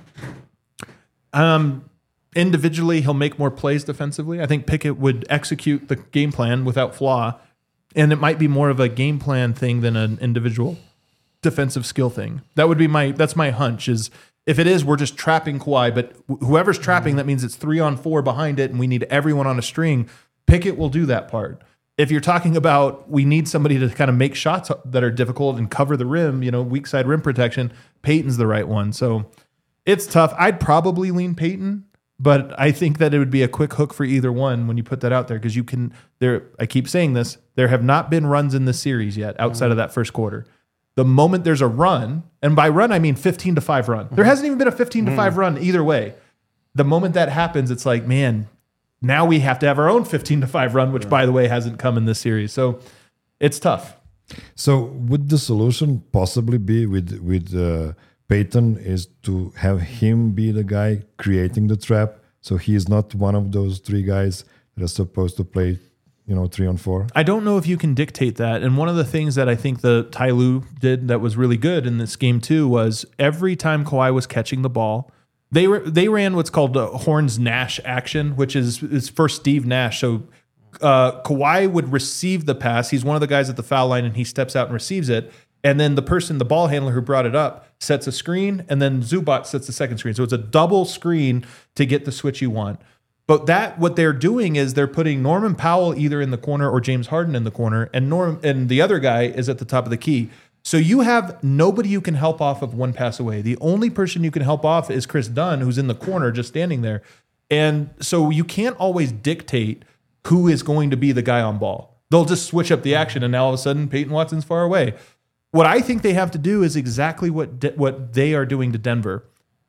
Um, individually, he'll make more plays defensively. I think Pickett would execute the game plan without flaw, and it might be more of a game plan thing than an individual defensive skill thing. That would be my. That's my hunch. Is if it is, we're just trapping Kawhi, but whoever's trapping, that means it's three on four behind it, and we need everyone on a string. Pickett will do that part. If you're talking about we need somebody to kind of make shots that are difficult and cover the rim, you know, weak side rim protection, Peyton's the right one. So it's tough. I'd probably lean Peyton, but I think that it would be a quick hook for either one when you put that out there because you can. There, I keep saying this. There have not been runs in this series yet outside mm-hmm. of that first quarter. The moment there's a run, and by run I mean fifteen to five run. There hasn't even been a fifteen to five run either way. The moment that happens, it's like, man, now we have to have our own fifteen to five run, which, by the way, hasn't come in this series. So it's tough. So would the solution possibly be with with uh, Peyton is to have him be the guy creating the trap, so he is not one of those three guys that are supposed to play, you know, three on four? I don't know if you can dictate that. And one of the things that I think the Ty Lue did that was really good in this game too was every time Kawhi was catching the ball, they were they ran what's called a Horns Nash action, which is is for Steve Nash. So uh, Kawhi would receive the pass. He's one of the guys at the foul line, and he steps out and receives it. And then the person, the ball handler who brought it up, sets a screen, and then Zubac sets the second screen. So it's a double screen to get the switch you want. But that what they're doing is they're putting Norman Powell either in the corner or James Harden in the corner, and Norm and the other guy is at the top of the key. So you have nobody you can help off of one pass away. The only person you can help off is Chris Dunn, who's in the corner just standing there. And so you can't always dictate who is going to be the guy on ball. They'll just switch up the action, and now all of a sudden Peyton Watson's far away. What I think they have to do is exactly what De- what they are doing to Denver.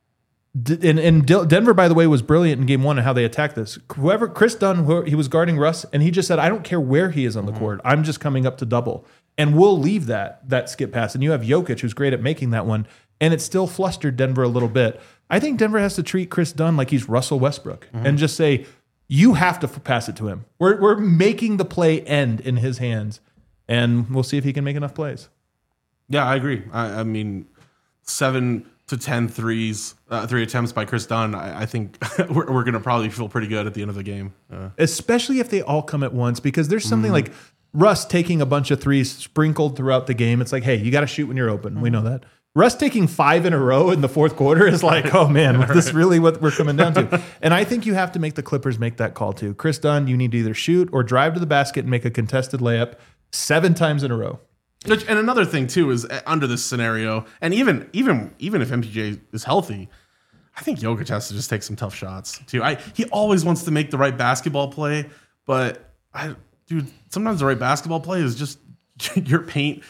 And, and Denver, by the way, was brilliant in game one and how they attacked this. Whoever, Chris Dunn, who, he was guarding Russ, and he just said, I don't care where he is on the mm-hmm. court. I'm just coming up to double. And we'll leave that that skip pass. And you have Jokic, who's great at making that one. And it still flustered Denver a little bit. I think Denver has to treat Chris Dunn like he's Russell Westbrook mm-hmm. and just say, you have to pass it to him. We're, we're making the play end in his hands. And we'll see if he can make enough plays. Yeah, I agree. I, I mean, seven to ten threes, uh, three attempts by Chris Dunn. I, I think we're, we're going to probably feel pretty good at the end of the game. Uh, Especially if they all come at once, because there's something mm-hmm. like Russ taking a bunch of threes sprinkled throughout the game. It's like, hey, you got to shoot when you're open. Mm-hmm. We know that. Russ taking five in a row in the fourth quarter is like, oh man, is this really what we're coming down to? And I think you have to make the Clippers make that call too. Chris Dunn, you need to either shoot or drive to the basket and make a contested layup seven times in a row. And another thing too is under this scenario, and even even even if M P J is healthy, I think Jokic has to just take some tough shots too. I he always wants to make the right basketball play, but I dude, sometimes the right basketball play is just your paint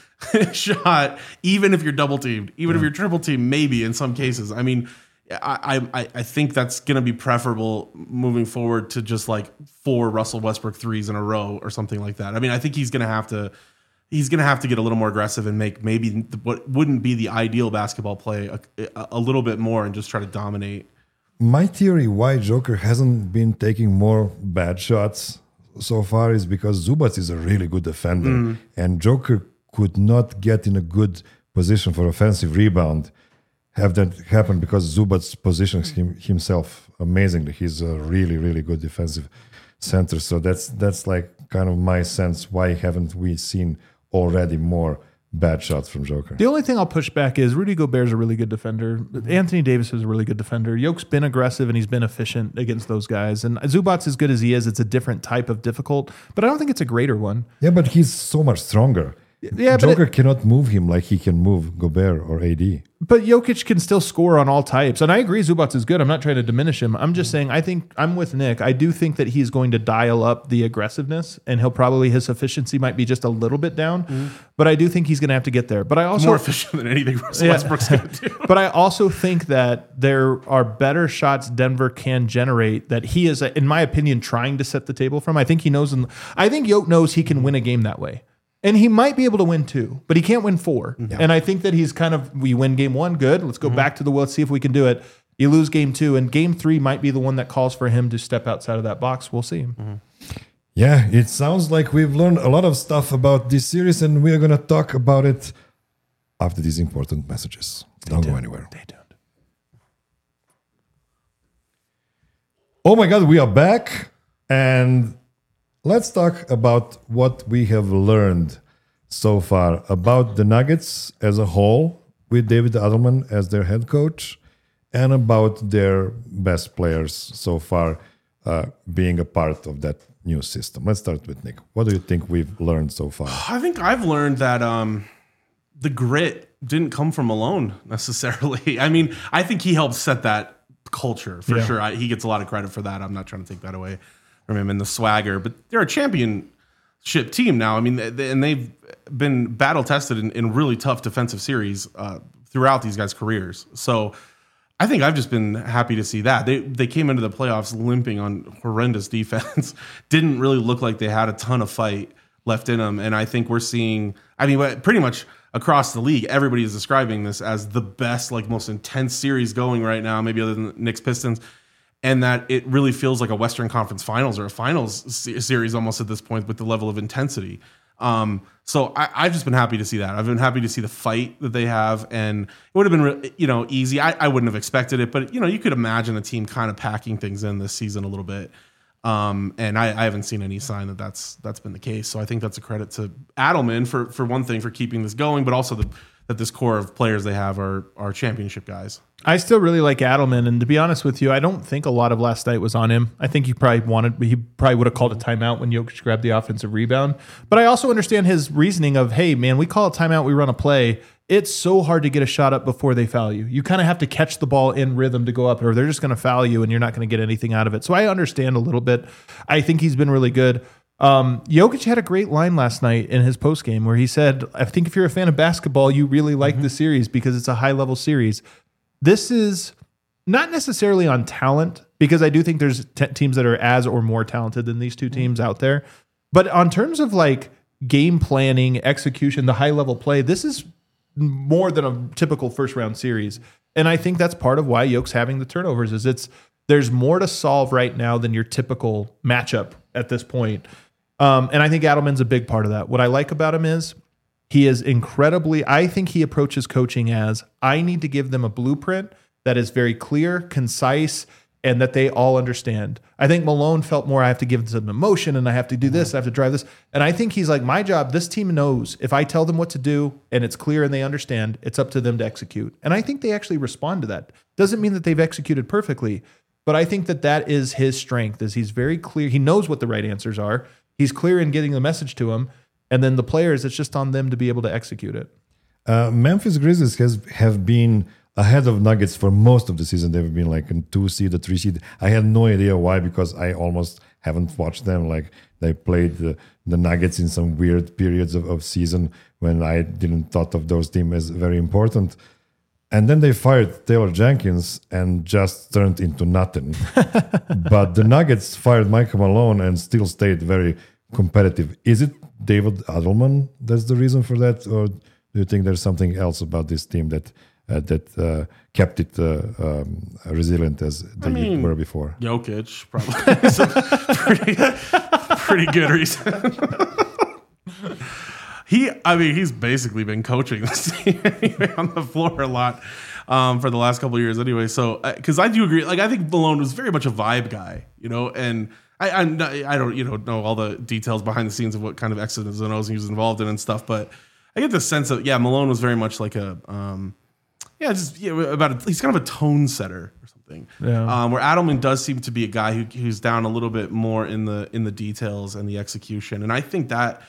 shot, even if you're double teamed, even yeah. if you're triple teamed, maybe in some cases. I mean, I I, I think that's going to be preferable moving forward to just like four Russell Westbrook threes in a row or something like that. I mean, I think he's going to have to he's going to have to get a little more aggressive and make maybe what wouldn't be the ideal basketball play a, a little bit more and just try to dominate. My theory why Joker hasn't been taking more bad shots so far is because Zubac is a really good defender, mm. and Joker could not get in a good position for offensive rebound. Have that happen because Zubac positions him, himself amazingly. He's a really, really good defensive center. So that's that's like kind of my sense. Why haven't we seen already more bad shots from Joker? The only thing I'll push back is Rudy Gobert's a really good defender. Anthony Davis is a really good defender. Yoke's been aggressive and he's been efficient against those guys. And Zubac's as good as he is, it's a different type of difficult, but I don't think it's a greater one. Yeah, but he's so much stronger. Yeah, Joker it, cannot move him like he can move Gobert or A D. But Jokic can still score on all types. And I agree Zubac is good. I'm not trying to diminish him. I'm just saying I think I'm with Nick. I do think that he's going to dial up the aggressiveness and he'll probably, his efficiency might be just a little bit down. Mm-hmm. But I do think he's going to have to get there. But I also more efficient than anything Russell yeah. Westbrook's going to do. But I also think that there are better shots Denver can generate that he is, in my opinion, trying to set the table from. I think he knows. I think Yoke knows he can win a game that way. And he might be able to win two, but he can't win four. Yeah. And I think that he's kind of, we win game one, good. Let's go mm-hmm. back to the well, let's see if we can do it. You lose game two, and game three might be the one that calls for him to step outside of that box. We'll see. Mm-hmm. Yeah, it sounds like we've learned a lot of stuff about this series, and we're going to talk about it after these important messages. Stay Don't tuned. go anywhere. Stay tuned. Oh my God, we are back, and let's talk about what we have learned so far about the Nuggets as a whole with David Adelman as their head coach and about their best players so far uh, being a part of that new system. Let's start with Nick. What do you think we've learned so far? I think I've learned that um, the grit didn't come from Malone necessarily. I mean, I think he helped set that culture for yeah. sure. I, he gets a lot of credit for that. I'm not trying to take that away from him and the swagger, but they're a championship team now. I mean, they, and they've been battle tested in, in really tough defensive series uh, throughout these guys' careers. So I think I've just been happy to see that. They they came into the playoffs limping on horrendous defense. Didn't really look like they had a ton of fight left in them. And I think we're seeing, I mean, pretty much across the league, everybody is describing this as the best, like most intense series going right now, maybe other than the Knicks Pistons. And that it really feels like a Western Conference Finals or a Finals series almost at this point with the level of intensity. Um, so I, I've just been happy to see that. I've been happy to see the fight that they have, and it would have been, you know, easy. I, I wouldn't have expected it, but you know, you could imagine a team kind of packing things in this season a little bit. Um, and I, I haven't seen any sign that that's that's been the case. So I think that's a credit to Adelman for for one thing for keeping this going, but also the, that this core of players they have are are championship guys. I still really like Adelman, and to be honest with you, I don't think a lot of last night was on him. I think he probably wanted, he probably would have called a timeout when Jokic grabbed the offensive rebound. But I also understand his reasoning of, hey, man, we call a timeout, we run a play. It's so hard to get a shot up before they foul you. You kind of have to catch the ball in rhythm to go up, or they're just going to foul you, and you're not going to get anything out of it. So I understand a little bit. I think he's been really good. Um, Jokic had a great line last night in his postgame where he said, I think if you're a fan of basketball, you really like mm-hmm. the series because it's a high-level series. This is not necessarily on talent, because I do think there's t- teams that are as or more talented than these two teams out there. But on terms of like game planning, execution, the high level play, this is more than a typical first round series. And I think that's part of why Yoke's having the turnovers is it's there's more to solve right now than your typical matchup at this point. Um, and I think Adelman's a big part of that. What I like about him is he is incredibly, I think he approaches coaching as, I need to give them a blueprint that is very clear, concise, and that they all understand. I think Malone felt more, I have to give them emotion and I have to do this, I have to drive this. And I think he's like, my job, this team knows if I tell them what to do and it's clear and they understand, it's up to them to execute. And I think they actually respond to that. Doesn't mean that they've executed perfectly, but I think that that is his strength, is he's very clear. He knows what the right answers are. He's clear in getting the message to them. And then the players, it's just on them to be able to execute it. Uh, Memphis Grizzlies has have been ahead of Nuggets for most of the season. They've been like in two seed, a three seed. I had no idea why, because I almost haven't watched them. Like they played the, the Nuggets in some weird periods of, of season when I didn't thought of those teams as very important. And then they fired Taylor Jenkins and just turned into nothing. But the Nuggets fired Michael Malone and still stayed very competitive. Is it David Adelman that's the reason for that, or do you think there's something else about this team that uh, that uh, kept it uh, um, resilient as they I mean, were before? Jokic probably is a pretty, pretty good reason. he, I mean, he's basically been coaching this team anyway on the floor a lot um, for the last couple of years anyway. So, because I do agree, like I think Malone was very much a vibe guy, you know, and. I, I'm not, I don't you know know all the details behind the scenes of what kind of X's and O's he was involved in and stuff, but I get the sense that yeah, Malone was very much like a um, yeah, just yeah, about a, he's kind of a tone setter or something. Yeah. Um, where Adelman does seem to be a guy who who's down a little bit more in the in the details and the execution, and I think that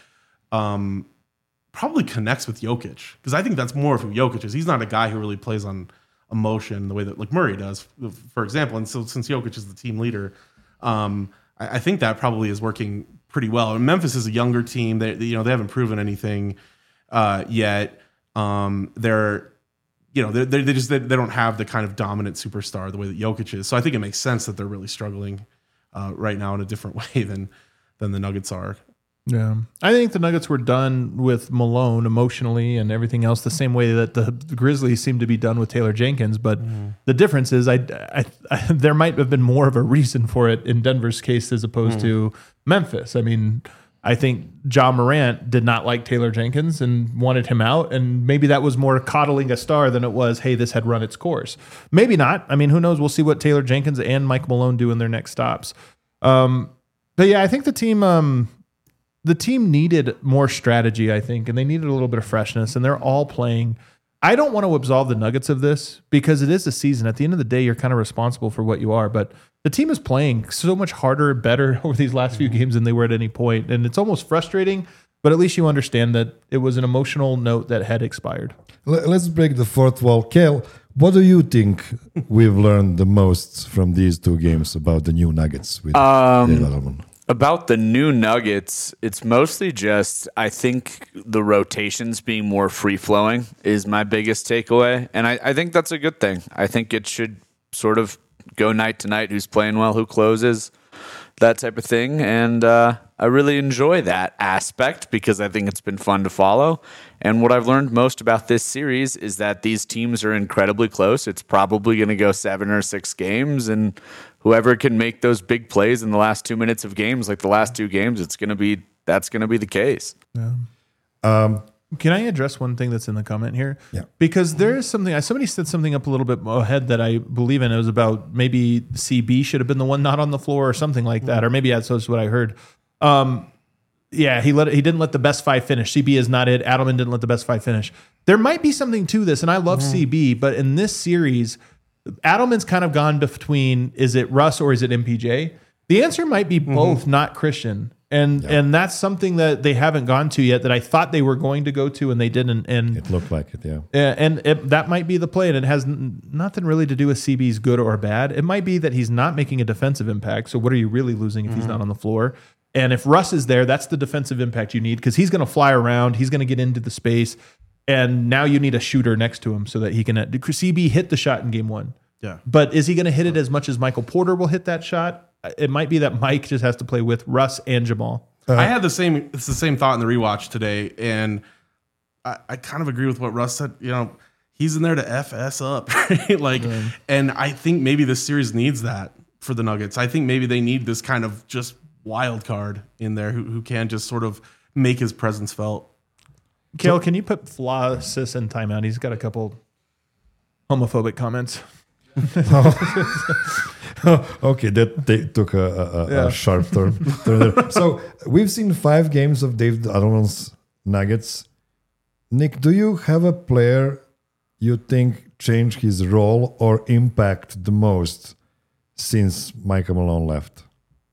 um, probably connects with Jokic, because I think that's more of who Jokic is. He's not a guy who really plays on emotion the way that like Murray does, for example. And so since Jokic is the team leader. Um, I think that probably is working pretty well. And Memphis is a younger team. They, you know, they haven't proven anything uh, yet. Um, they're, you know, they they just they, they don't have the kind of dominant superstar the way that Jokic is. So I think it makes sense that they're really struggling uh, right now in a different way than than the Nuggets are. Yeah, I think the Nuggets were done with Malone emotionally and everything else the same way that the Grizzlies seem to be done with Taylor Jenkins. But mm. the difference is, I, I, I, there might have been more of a reason for it in Denver's case as opposed mm. to Memphis. I mean, I think Ja Morant did not like Taylor Jenkins and wanted him out, and maybe that was more coddling a star than it was, hey, this had run its course. Maybe not. I mean, who knows? We'll see what Taylor Jenkins and Mike Malone do in their next stops. Um, but yeah, I think the team. Um, The team needed more strategy, I think, and they needed a little bit of freshness, and they're all playing. I don't want to absolve the Nuggets of this because it is a season. At the end of the day, you're kind of responsible for what you are, but the team is playing so much harder and better over these last few games than they were at any point, and it's almost frustrating, but at least you understand that it was an emotional note that had expired. Let's break the fourth wall. Kel, what do you think we've learned the most from these two games about the new Nuggets with um, Dave Adelman? About the new Nuggets, it's mostly just, I think the rotations being more free-flowing is my biggest takeaway. And I, I think that's a good thing. I think it should sort of go night to night, who's playing well, who closes, that type of thing. And uh, I really enjoy that aspect because I think it's been fun to follow. And what I've learned most about this series is that these teams are incredibly close. It's probably going to go seven or six games, and whoever can make those big plays in the last two minutes of games, like the last two games, it's going to be that's going to be the case. Yeah. Um, can I address one thing that's in the comment here? Yeah. Because there is something. Somebody said something up a little bit ahead that I believe in. It was about maybe C B should have been the one not on the floor or something like that, or maybe that's what I heard. Um, yeah, he let he didn't let the best five finish. C B is not it. Adelman didn't let the best five finish. There might be something to this, and I love mm-hmm. C B, but in this series, Adelman's kind of gone between, is it Russ or is it M P J? The answer might be both, mm-hmm. not Christian. And yeah. and that's something that they haven't gone to yet that I thought they were going to go to and they didn't. And it looked like it, yeah. And it, that might be the play, and it has n- nothing really to do with C B's good or bad. It might be that he's not making a defensive impact. So what are you really losing if mm-hmm. he's not on the floor? And if Russ is there, that's the defensive impact you need because he's going to fly around. He's going to get into the space. And now you need a shooter next to him so that he can. C B hit the shot in game one. Yeah. But is he going to hit it as much as Michael Porter will hit that shot? It might be that Mike just has to play with Russ and Jamal. Uh, I had the same. It's the same thought in the rewatch today, and I, I kind of agree with what Russ said. You know, he's in there to F S up, right? Like, yeah. And I think maybe this series needs that for the Nuggets. I think maybe they need this kind of just wild card in there who who can just sort of make his presence felt. Kale, can you put Flossis in timeout? He's got a couple homophobic comments. Okay, that they took a, a, a- Yeah. a sharp turn. turn there. So we've seen five games of David Adelman's Nuggets. Nick, do you have a player you think changed his role or impact the most since Michael Malone left?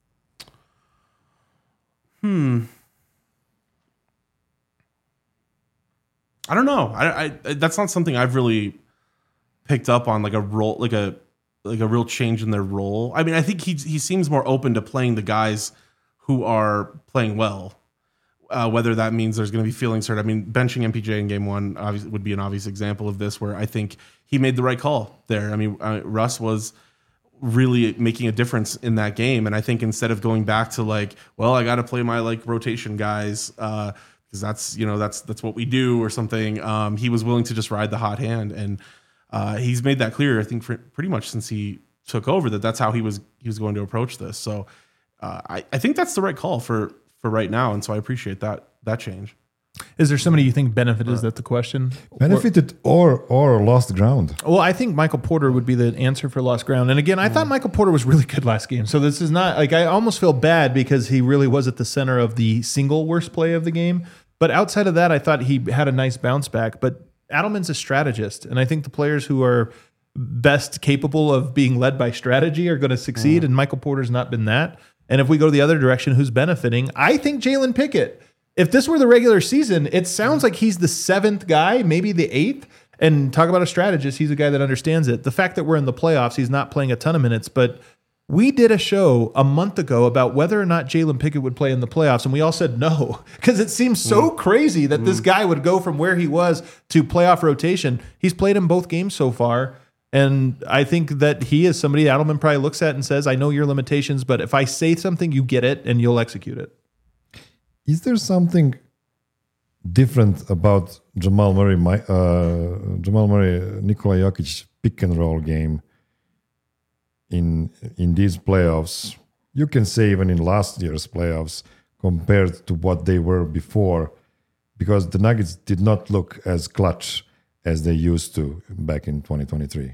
I don't know. I, I that's not something I've really picked up on, like a role, like a like a real change in their role. I mean, I think he he seems more open to playing the guys who are playing well. Uh, whether that means there's going to be feelings hurt. I mean, benching M P J in game one obviously would be an obvious example of this, where I think he made the right call there. I mean, uh, Russ was really making a difference in that game, and I think instead of going back to like, well, I got to play my like rotation guys because uh, that's you know that's that's what we do or something. Um, he was willing to just ride the hot hand, and uh, he's made that clear. I think for pretty much since he took over that that's how he was he was going to approach this. So uh, I I think that's the right call for. for right now, and so I appreciate that that change. Is there somebody you think benefited? Is that the question? Benefited or or lost ground? Well, I think Michael Porter would be the answer for lost ground. And again, I thought Michael Porter was really good last game. So this is not like I almost feel bad because he really was at the center of the single worst play of the game. But outside of that, I thought he had a nice bounce back. But Adelman's a strategist, and I think the players who are best capable of being led by strategy are going to succeed. Mm. And Michael Porter's not been that. And if we go the other direction, who's benefiting? I think Jalen Pickett. If this were the regular season, it sounds like he's the seventh guy, maybe the eighth. And talk about a strategist, he's a guy that understands it. The fact that we're in the playoffs, he's not playing a ton of minutes. But we did a show a month ago about whether or not Jalen Pickett would play in the playoffs, and we all said no, because it seems so mm. crazy that mm. this guy would go from where he was to playoff rotation. He's played in both games so far. And I think that he is somebody Adelman probably looks at and says, I know your limitations, but if I say something, you get it and you'll execute it. Is there something different about Jamal Murray, my, uh, Jamal Murray, Nikola Jokic pick and roll game in in these playoffs? You can say even in last year's playoffs compared to what they were before, because the Nuggets did not look as clutch as they used to back in twenty twenty-three.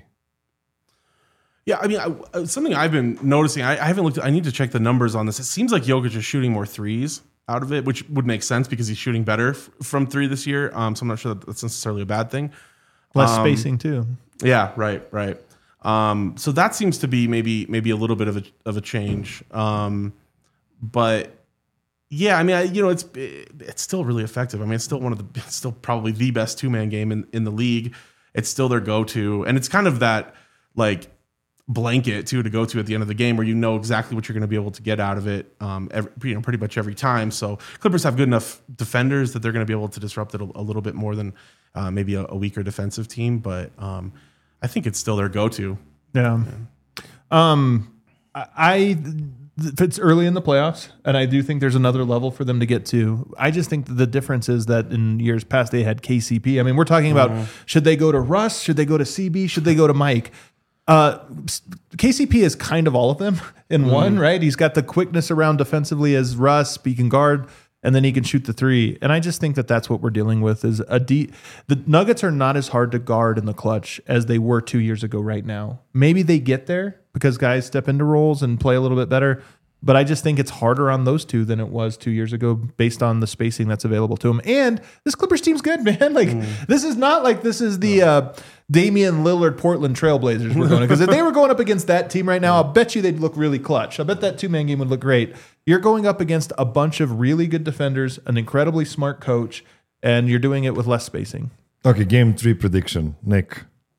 Yeah, I mean, I, something I've been noticing, I, I haven't looked, I need to check the numbers on this. It seems like Jokic is shooting more threes out of it, which would make sense because he's shooting better f- from three this year. Um, so I'm not sure that that's necessarily a bad thing. Less um, spacing too. Yeah, right, right. Um, so that seems to be maybe maybe a little bit of a of a change. Um, but yeah, I mean, I, you know, it's it's still really effective. I mean, it's still one of the, it's still probably the best two man game in, in the league. It's still their go to, and it's kind of that like blanket too to go to at the end of the game where you know exactly what you're going to be able to get out of it. Um, every, you know, pretty much every time. So Clippers have good enough defenders that they're going to be able to disrupt it a, a little bit more than uh, maybe a, a weaker defensive team. But um, I think it's still their go to. Yeah. yeah. Um, I. I It's early in the playoffs, and I do think there's another level for them to get to. I just think that the difference is that in years past they had K C P. I mean, we're talking about mm. should they go to Russ? Should they go to C B? Should they go to Mike? Uh, K C P is kind of all of them in mm. one, right? He's got the quickness around defensively as Russ, he can guard, and then he can shoot the three. And I just think that that's what we're dealing with is a deep. The Nuggets are not as hard to guard in the clutch as they were two years ago right now. Maybe they get there because guys step into roles and play a little bit better. But I just think it's harder on those two than it was two years ago based on the spacing that's available to them. And this Clippers team's good, man. Like mm. this is not like this is the uh, Damian Lillard Portland Trailblazers we're going to. Because if they were going up against that team right now, I'll bet you they'd look really clutch. I bet that two-man game would look great. You're going up against a bunch of really good defenders, an incredibly smart coach, and you're doing it with less spacing. Okay, game three prediction. Nick.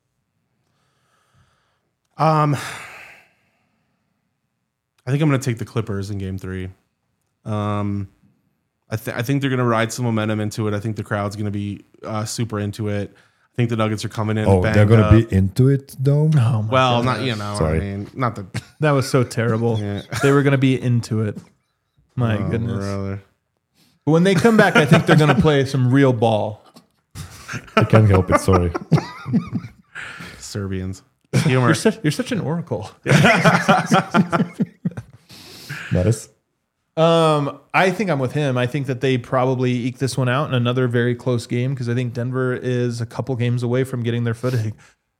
Um... I think I'm going to take the Clippers in game three. Um, I, th- I think they're going to ride some momentum into it. I think the crowd's going to be uh, super into it. I think the Nuggets are coming in. Oh, they're going to be into it, though? Oh, well, gosh. not, you know, Sorry. I mean, not the. That was so terrible. Yeah. They were going to be into it. My oh, goodness. Brother. When they come back, I think they're going to play some real ball. I can't help it, sorry. Serbians. You're such, you're such an oracle. Nice. Um, I think I'm with him. I think that they probably eke this one out in another very close game because I think Denver is a couple games away from getting their footing.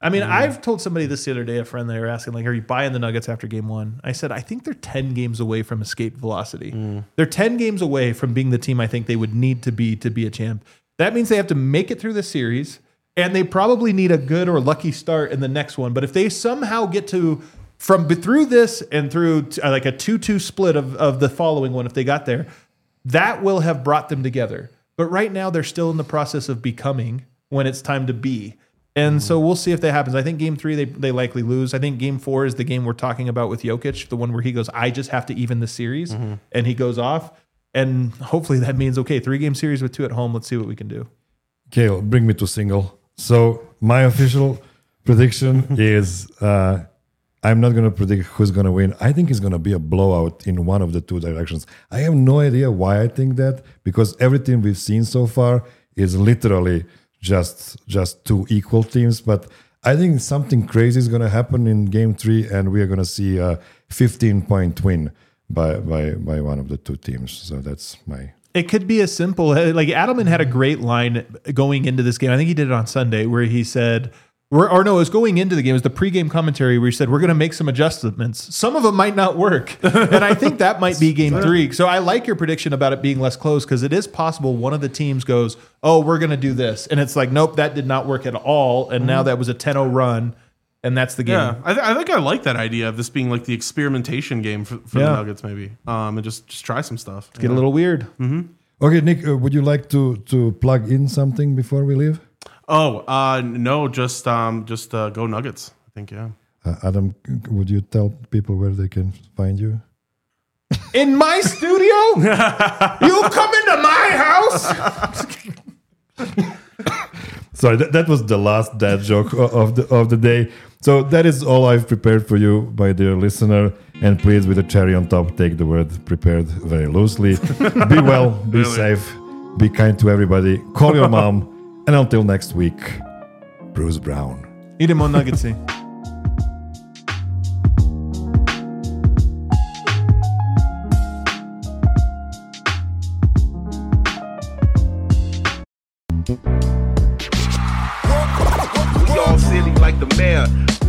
I mean, I've told somebody this the other day, a friend, they were asking, like, are you buying the Nuggets after game one? I said, I think they're ten games away from escape velocity. Mm. They're ten games away from being the team I think they would need to be to be a champ. That means they have to make it through the series, and they probably need a good or lucky start in the next one. But if they somehow get to, from through this and through uh, like a two two split of, of the following one, if they got there, that will have brought them together. But right now, they're still in the process of becoming when it's time to be. And so we'll see if that happens. I think game three, they, they likely lose. I think game four is the game we're talking about with Jokic, the one where he goes, I just have to even the series, mm-hmm. and he goes off. And hopefully that means, okay, three-game series with two at home. Let's see what we can do. Kale, bring me to single. So my official prediction is uh, I'm not going to predict who's going to win. I think it's going to be a blowout in one of the two directions. I have no idea why I think that, because everything we've seen so far is literally just just two equal teams. But I think something crazy is going to happen in game three, and we are going to see a fifteen-point win by, by, by one of the two teams. So that's my... It could be as simple, like Adelman had a great line going into this game. I think he did it on Sunday where he said, or, or no, it was going into the game. It was the pregame commentary where he said, we're going to make some adjustments. Some of them might not work. And I think that might be game three. So I like your prediction about it being less close, because it is possible one of the teams goes, oh, we're going to do this. And it's like, nope, that did not work at all. And mm-hmm. now that was a ten oh run. And that's the game. Yeah, I, th- I think I like that idea of this being like the experimentation game for, for yeah. the Nuggets, maybe, um, and just just try some stuff. Get know? a little weird. Mm-hmm. Okay, Nick, uh, would you like to to plug in something before we leave? Oh, uh, no, just um, just uh, go Nuggets. I think, yeah. Uh, Adam, would you tell people where they can find you? In my studio? You come into my house? Sorry, that, that was the last dad joke of the of the day. So that is all I've prepared for you, my dear listener. And please, with a cherry on top, take the word prepared very loosely. Be well, be really? safe, be kind to everybody. Call your mom. And until next week, Bruce Brown. Idemo Nuggetsy. We all silly like the mayor.